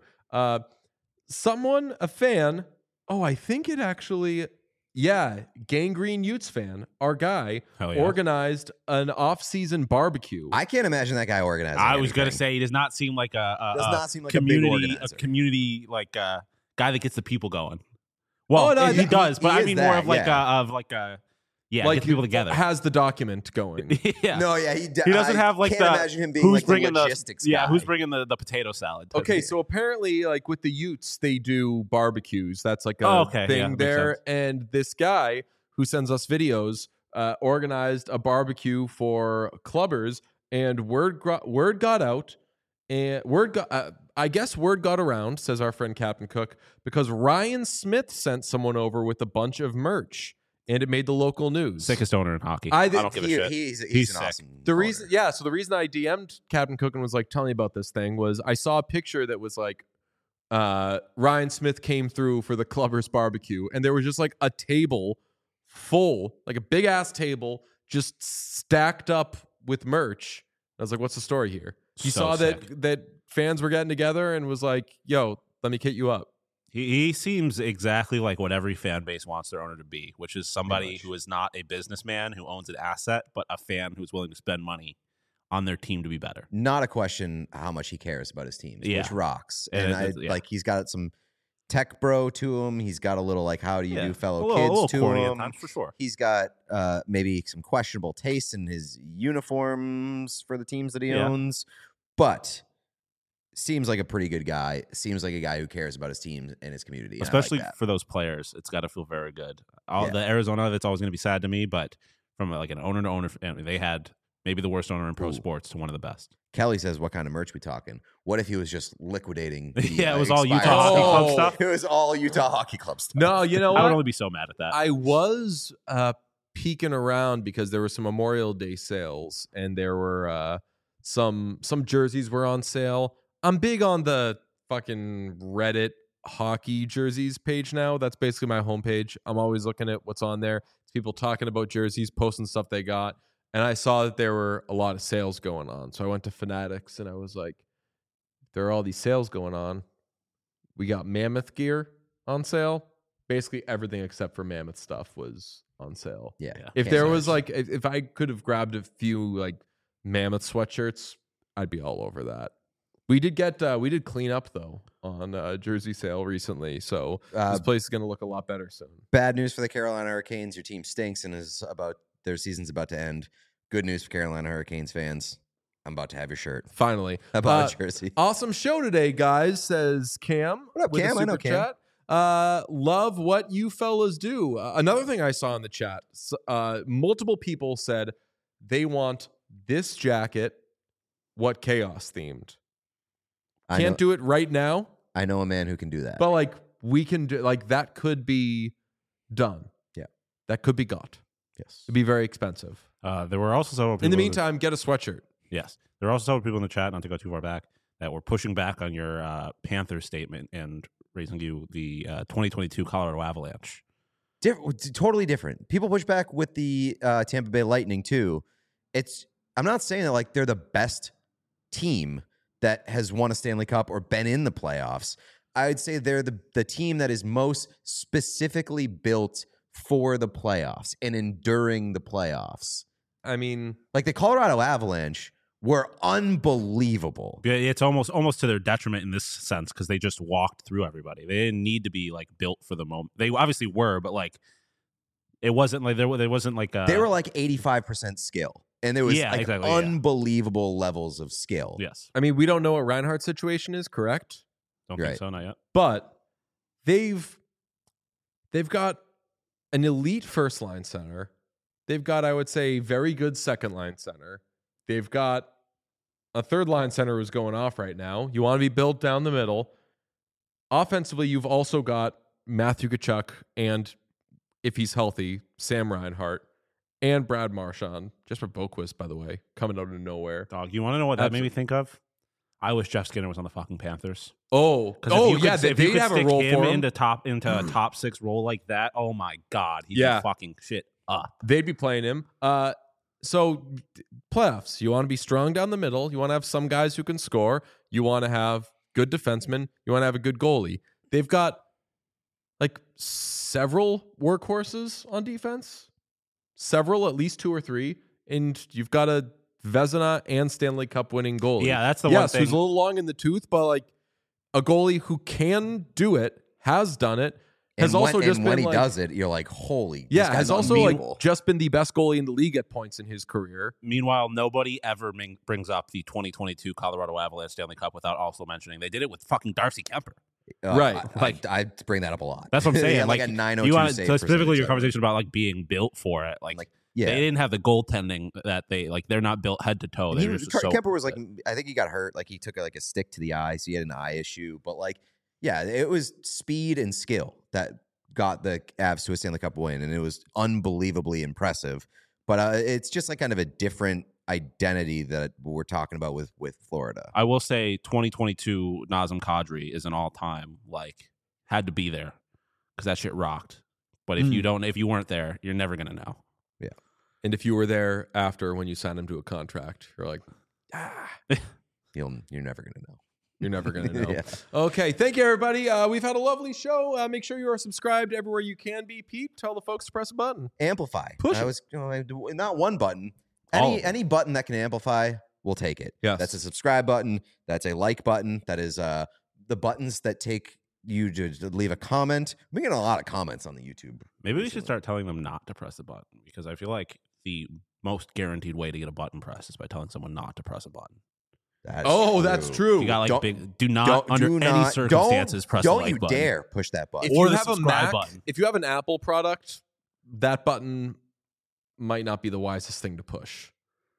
A fan. Oh, I think it actually. Yeah, Gangrene Utes fan, our guy, Hell yeah. organized an off-season barbecue. I can't imagine that guy organizing. I was gonna anything. say he does not seem like Does not seem like a big community, organizer. community like guy that gets the people going. Well, Oh, no, he does, but he I is mean that, more of like yeah. get people together. Has the document going. Yeah. No, yeah, He doesn't have like can't the imagine him being who's like the bringing logistics the guy. who's bringing the potato salad. type Okay, of- so apparently, like with the Utes, they do barbecues. That's like a Yeah, thing makes there. sense. And this guy who sends us videos organized a barbecue for clubbers, and word got out, and I guess word got around, says our friend Captain Cook, because Ryan Smith sent someone over with a bunch of merch, and it made the local news. sickest owner in hockey. I I, think don't give a shit. He's He's an sick. awesome. The owner. reason I DM'd Captain Cook and was like, "Tell me about this thing." Was I saw a picture that was like Ryan Smith came through for the Clubbers barbecue, and there was just like a table full, like a big ass table, just stacked up with merch. I was like, "What's the story here?" He So saw sick. that fans were getting together and was like, "Yo, let me kit you up." He seems exactly like what every fan base wants their owner to be, which is somebody much. who is not a businessman who owns an asset, but a fan who's willing to spend money on their team to be better. Not a question how much he cares about his teams, Yeah. which rocks. And And yeah. like he's got some tech bro to him. He's got a little like how do you do fellow a little kids to corny at him. times, for sure. He's got maybe some questionable taste in his uniforms for the teams that he Yeah. owns, but seems like a pretty good guy. Seems like a guy who cares about his team and his community. and I like Especially that. for those players, it's got to feel very good. Yeah. The Arizona, that's always going to be sad to me, but from like an owner to owner, they had maybe the worst owner in pro Ooh. sports to one of the best. Kelly says, "What kind of merch we talking? What if he was just liquidating?" The, Yeah, it was all expired Utah Hockey Club Oh. stuff. It was all Utah Hockey Club stuff. No, you know I would what? only be so mad at that. I was peeking around because there were some Memorial Day sales, and there were some jerseys were on sale. I'm big on the fucking Reddit hockey jerseys page now. That's basically my homepage. I'm always looking at what's on there. It's people talking about jerseys, posting stuff they got, and I saw that there were a lot of sales going on. So I went to Fanatics and I was like, there are all these sales going on. We got Mammoth gear on sale. Basically everything except for Mammoth stuff was on sale. Yeah. Yeah. If Can't there say was much. like, if I could have grabbed a few like Mammoth sweatshirts, I'd be all over that. We did clean up though on jersey sale recently, so this place is going to look a lot better soon. Bad news for the Carolina Hurricanes. Your team stinks and their season's about to end. Good news for Carolina Hurricanes fans. I'm about to have your shirt. Finally, I bought a jersey. Awesome show today, guys. Says Cam. What up, with a Cam? I know super Cam. chat. Love what you fellas do. Another thing I saw in the chat, multiple people said they want this jacket, what chaos themed. Can't do it right now, I know a man who can do that. but like we can do, like that could be done. Yeah. That could be got. yes. It'd be very expensive. There were also several people In the meantime, get a sweatshirt. yes, there were also several people in the chat, not to go too far back, that were pushing back on your Panther statement and raising you the 2022 Colorado Avalanche. Totally different. People push back with the Tampa Bay Lightning too. I'm not saying that like they're the best team that has won a Stanley Cup or been in the playoffs. I would say they're the team that is most specifically built for the playoffs and enduring the playoffs. I mean, Like the Colorado Avalanche were unbelievable. Yeah, it's almost to their detriment in this sense because they just walked through everybody. They didn't need to be like built for the moment. They obviously were, but like it wasn't like there wasn't like They were like 85% skill. And there was Yeah, like exactly, yeah. unbelievable levels of skill. yes. I mean, we don't know what Reinhardt's situation is, correct? Don't Right. think so, not yet. But they've got an elite first line center. They've got, I would say, very good second line center. They've got a third line center who's going off right now. You want to be built down the middle. Offensively, you've also got Matthew Tkachuk and, if he's healthy, Sam Reinhart and Brad Marchand. Jesper Boquist, by the way, coming out of nowhere. Dog, you want to know what that made me Absolutely. think of? I wish Jeff Skinner was on the fucking Panthers. Oh, Yeah, they if you could have a stick role him for him. into a top six role like that, oh my god, he'd Yeah. be fucking shit up. They'd be playing him. So playoffs, you want to be strong down the middle. You want to have some guys who can score. You want to have good defensemen. You want to have a good goalie. They've got like several workhorses on defense, several, at least 2 or 3, and you've got a Vezina and Stanley Cup winning goalie. Yeah, that's the one yes, thing. who's a little long in the tooth, but like a goalie who can do it, has done it, has And also just when been he like, does it, you're like, holy. yeah, this guy's has also unbeatable. like just been the best goalie in the league at points in his career. Meanwhile, nobody ever brings up the 2022 Colorado Avalanche Stanley Cup without also mentioning they did it with fucking Darcy Kemper. Right. I bring that up a lot. That's what I'm He saying. had like a 902 you want save so specifically percentage your of it. conversation about like being built for it. Like Yeah. they didn't have the goaltending that they're not built head to toe. And They he were was, just so Kemper was like, I think he got hurt. Like he took like a stick to the eye, so he had an eye issue. But like, yeah, it was speed and skill that got the Avs to a Stanley Cup win, and it was unbelievably impressive. But it's just like kind of a different identity that we're talking about with Florida. I will say 2022 Nazem Kadri is an all-time, like, had to be there because that shit rocked. But if you weren't there, you're never gonna know. Yeah. And if you were there after when you signed him to a contract, you're like, You're never gonna know. you're never gonna know. Yeah. Okay, thank you, everybody. We've had a lovely show. Make sure you are subscribed everywhere you can be. Pete, tell the folks to press a button. Amplify. Push I it. was not one button. All of Any button that can amplify, we'll take it. Yes. That's a subscribe button. That's a like button. That is the buttons that take you to leave a comment. We're getting a lot of comments on the YouTube. Maybe we should start telling them not to press the button because I feel like the most guaranteed way to get a button press is by telling someone not to press a button. That's true. You got like Don't- do not under any circumstances press the Don't like you button. dare push that button. If Or you the have a subscribe Mac, button. if you have an Apple product, that button might not be the wisest thing to push.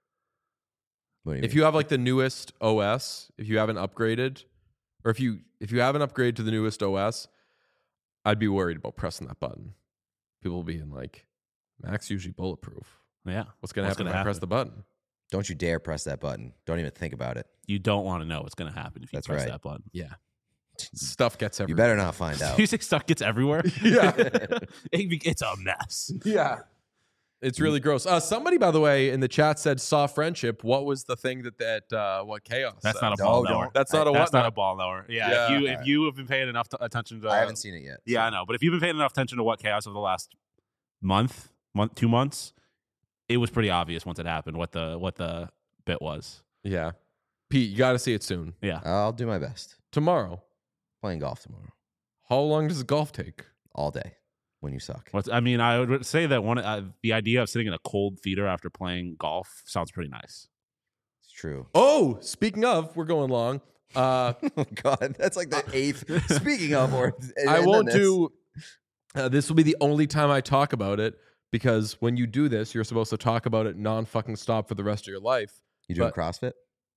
What do you If mean? you have like the newest OS, if you haven't upgraded, or if you haven't upgraded to the newest OS, I'd be worried about pressing that button. People being like, Mac's usually bulletproof. Yeah. What's going to happen if I press the button? Don't you dare press that button. Don't even think about it. You don't want to know what's going to happen if you That's press right. that button. Yeah. Stuff gets You everywhere. better not find out. You say stuff gets everywhere? Yeah. It's a mess. Yeah. It's really gross. Somebody, by the way, in the chat said saw friendship. What was the thing what chaos? That's said? not a ball knower. That's not a That's what? not a ball knower. Yeah. Yeah. If you have been paying enough attention to, I haven't seen it yet. Yeah, I know. But if you've been paying enough attention to what chaos over the last month, 2 months, it was pretty obvious once it happened what the bit was. Yeah. Pete, you got to see it soon. Yeah. I'll do my best. Tomorrow. Playing golf tomorrow. How long does golf take? All day when you suck. I would say that the idea of sitting in a cold theater after playing golf sounds pretty nice. It's true. Oh, speaking of, we're going long. Oh, God. That's like the eighth. Speaking of, I won't do. This will be the only time I talk about it because when you do this, you're supposed to talk about it non-fucking stop for the rest of your life. You doing but- CrossFit?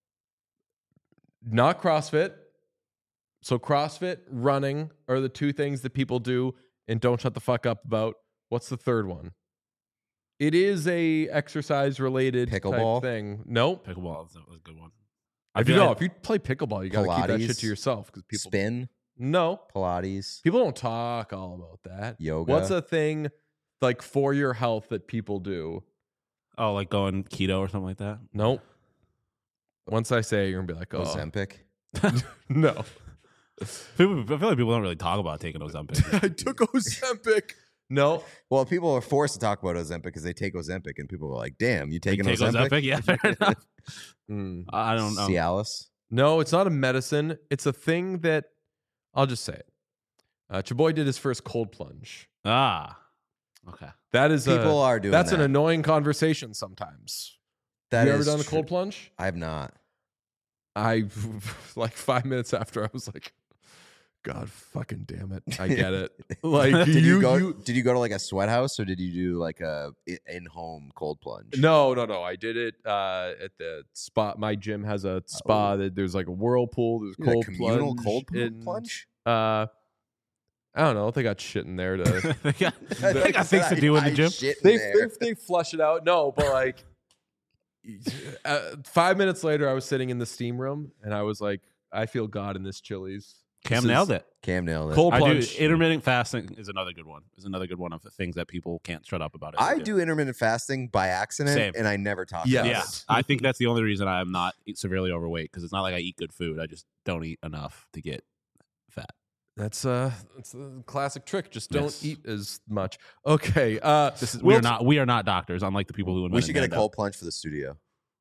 Not CrossFit. So CrossFit, running are the two things that people do and don't shut the fuck up about. What's the third one? It is a exercise related Pickleball? thing. Nope. Pickleball is a good one. If you play pickleball, you got to keep that Pilates? shit to yourself because people Spin? No. Pilates? People don't talk all about that. Yoga? What's a thing like for your health that people do? Oh, like going keto or something like that? Nope. Once I say it, you're gonna be like, oh, Ozempic? no. I feel like people don't really talk about taking Ozempic. I took Ozempic. No. Well, people are forced to talk about Ozempic because they take Ozempic, and people are like, "Damn, you taking Take Ozempic?" Yeah, fair enough. Mm. I don't know. Cialis? No, it's not a medicine. It's a thing that I'll just say it. Chaboy did his first cold plunge. Ah, okay. That is People are doing that's that. an annoying conversation sometimes. That you ever is done a true. cold plunge? I have not. I like 5 minutes after I was like, God fucking damn it. I get it. Like Did you go to like a sweat house or did you do like a in-home cold plunge? No. I did it at the spa. My gym has a spa that there's like a whirlpool. There's You did a cold communal plunge. cold and, plunge? I don't know. They got shit in there to. they got things to do in the gym. they flush it out. No, but like 5 minutes later, I was sitting in the steam room and I was like, I feel God in this Chili's. Cam nailed it. Cam nailed it. Cold I do. plunge. Intermittent fasting is another good one. Is another good one of the things that people can't shut up about. I do intermittent fasting by accident, Same. and I never talk Yes. about Yeah, it. I think that's the only reason I'm not severely overweight because it's not like I eat good food. I just don't eat enough to get fat. That's the classic trick. Just don't Yes. eat as much. Okay. We are not doctors, unlike the people who invented We should get a Mando. cold plunge for the studio.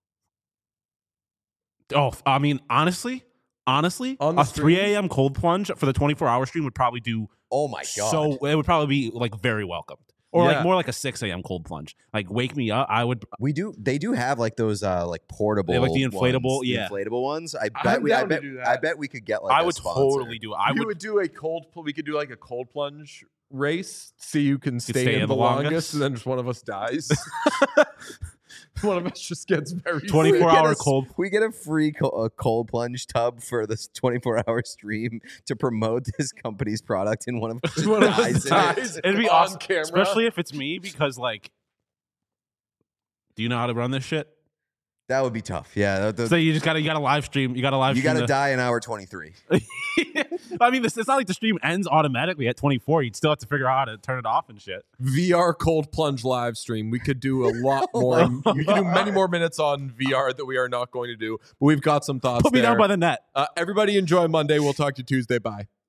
Oh, I mean, honestly, On the a 3 stream? a.m. cold plunge for the 24-hour stream would probably do Oh my god! so. It would probably be like very welcomed, or Yeah. like more like a 6 a.m. cold plunge. Like wake me up. I would. They do have like those like portable, They have, like, the inflatable- ones, yeah. the inflatable ones. I I'm down to bet do that. I bet we could get like I a would sponsor. totally do it. I we would. do a we could do like a cold plunge race. See who can stay in the longest. longest, and then just one of us dies. One of us just gets very 24-hour Get a- cold. We get a free cold plunge tub for this 24-hour stream to promote this company's product, and one of us One of us dies. in dies. it. It'd be on awesome, camera. especially if it's me because like, do you know how to run this shit? That would be tough. Yeah. So you got to live stream. You got to die in hour 23. I mean, it's not like the stream ends automatically at 24. You'd still have to figure out how to turn it off and shit. VR cold plunge live stream. We could do a lot more. We could do many more minutes on VR that we are not going to do. But we've got some thoughts. Put me down by the net. Everybody enjoy Monday. We'll talk to you Tuesday. Bye.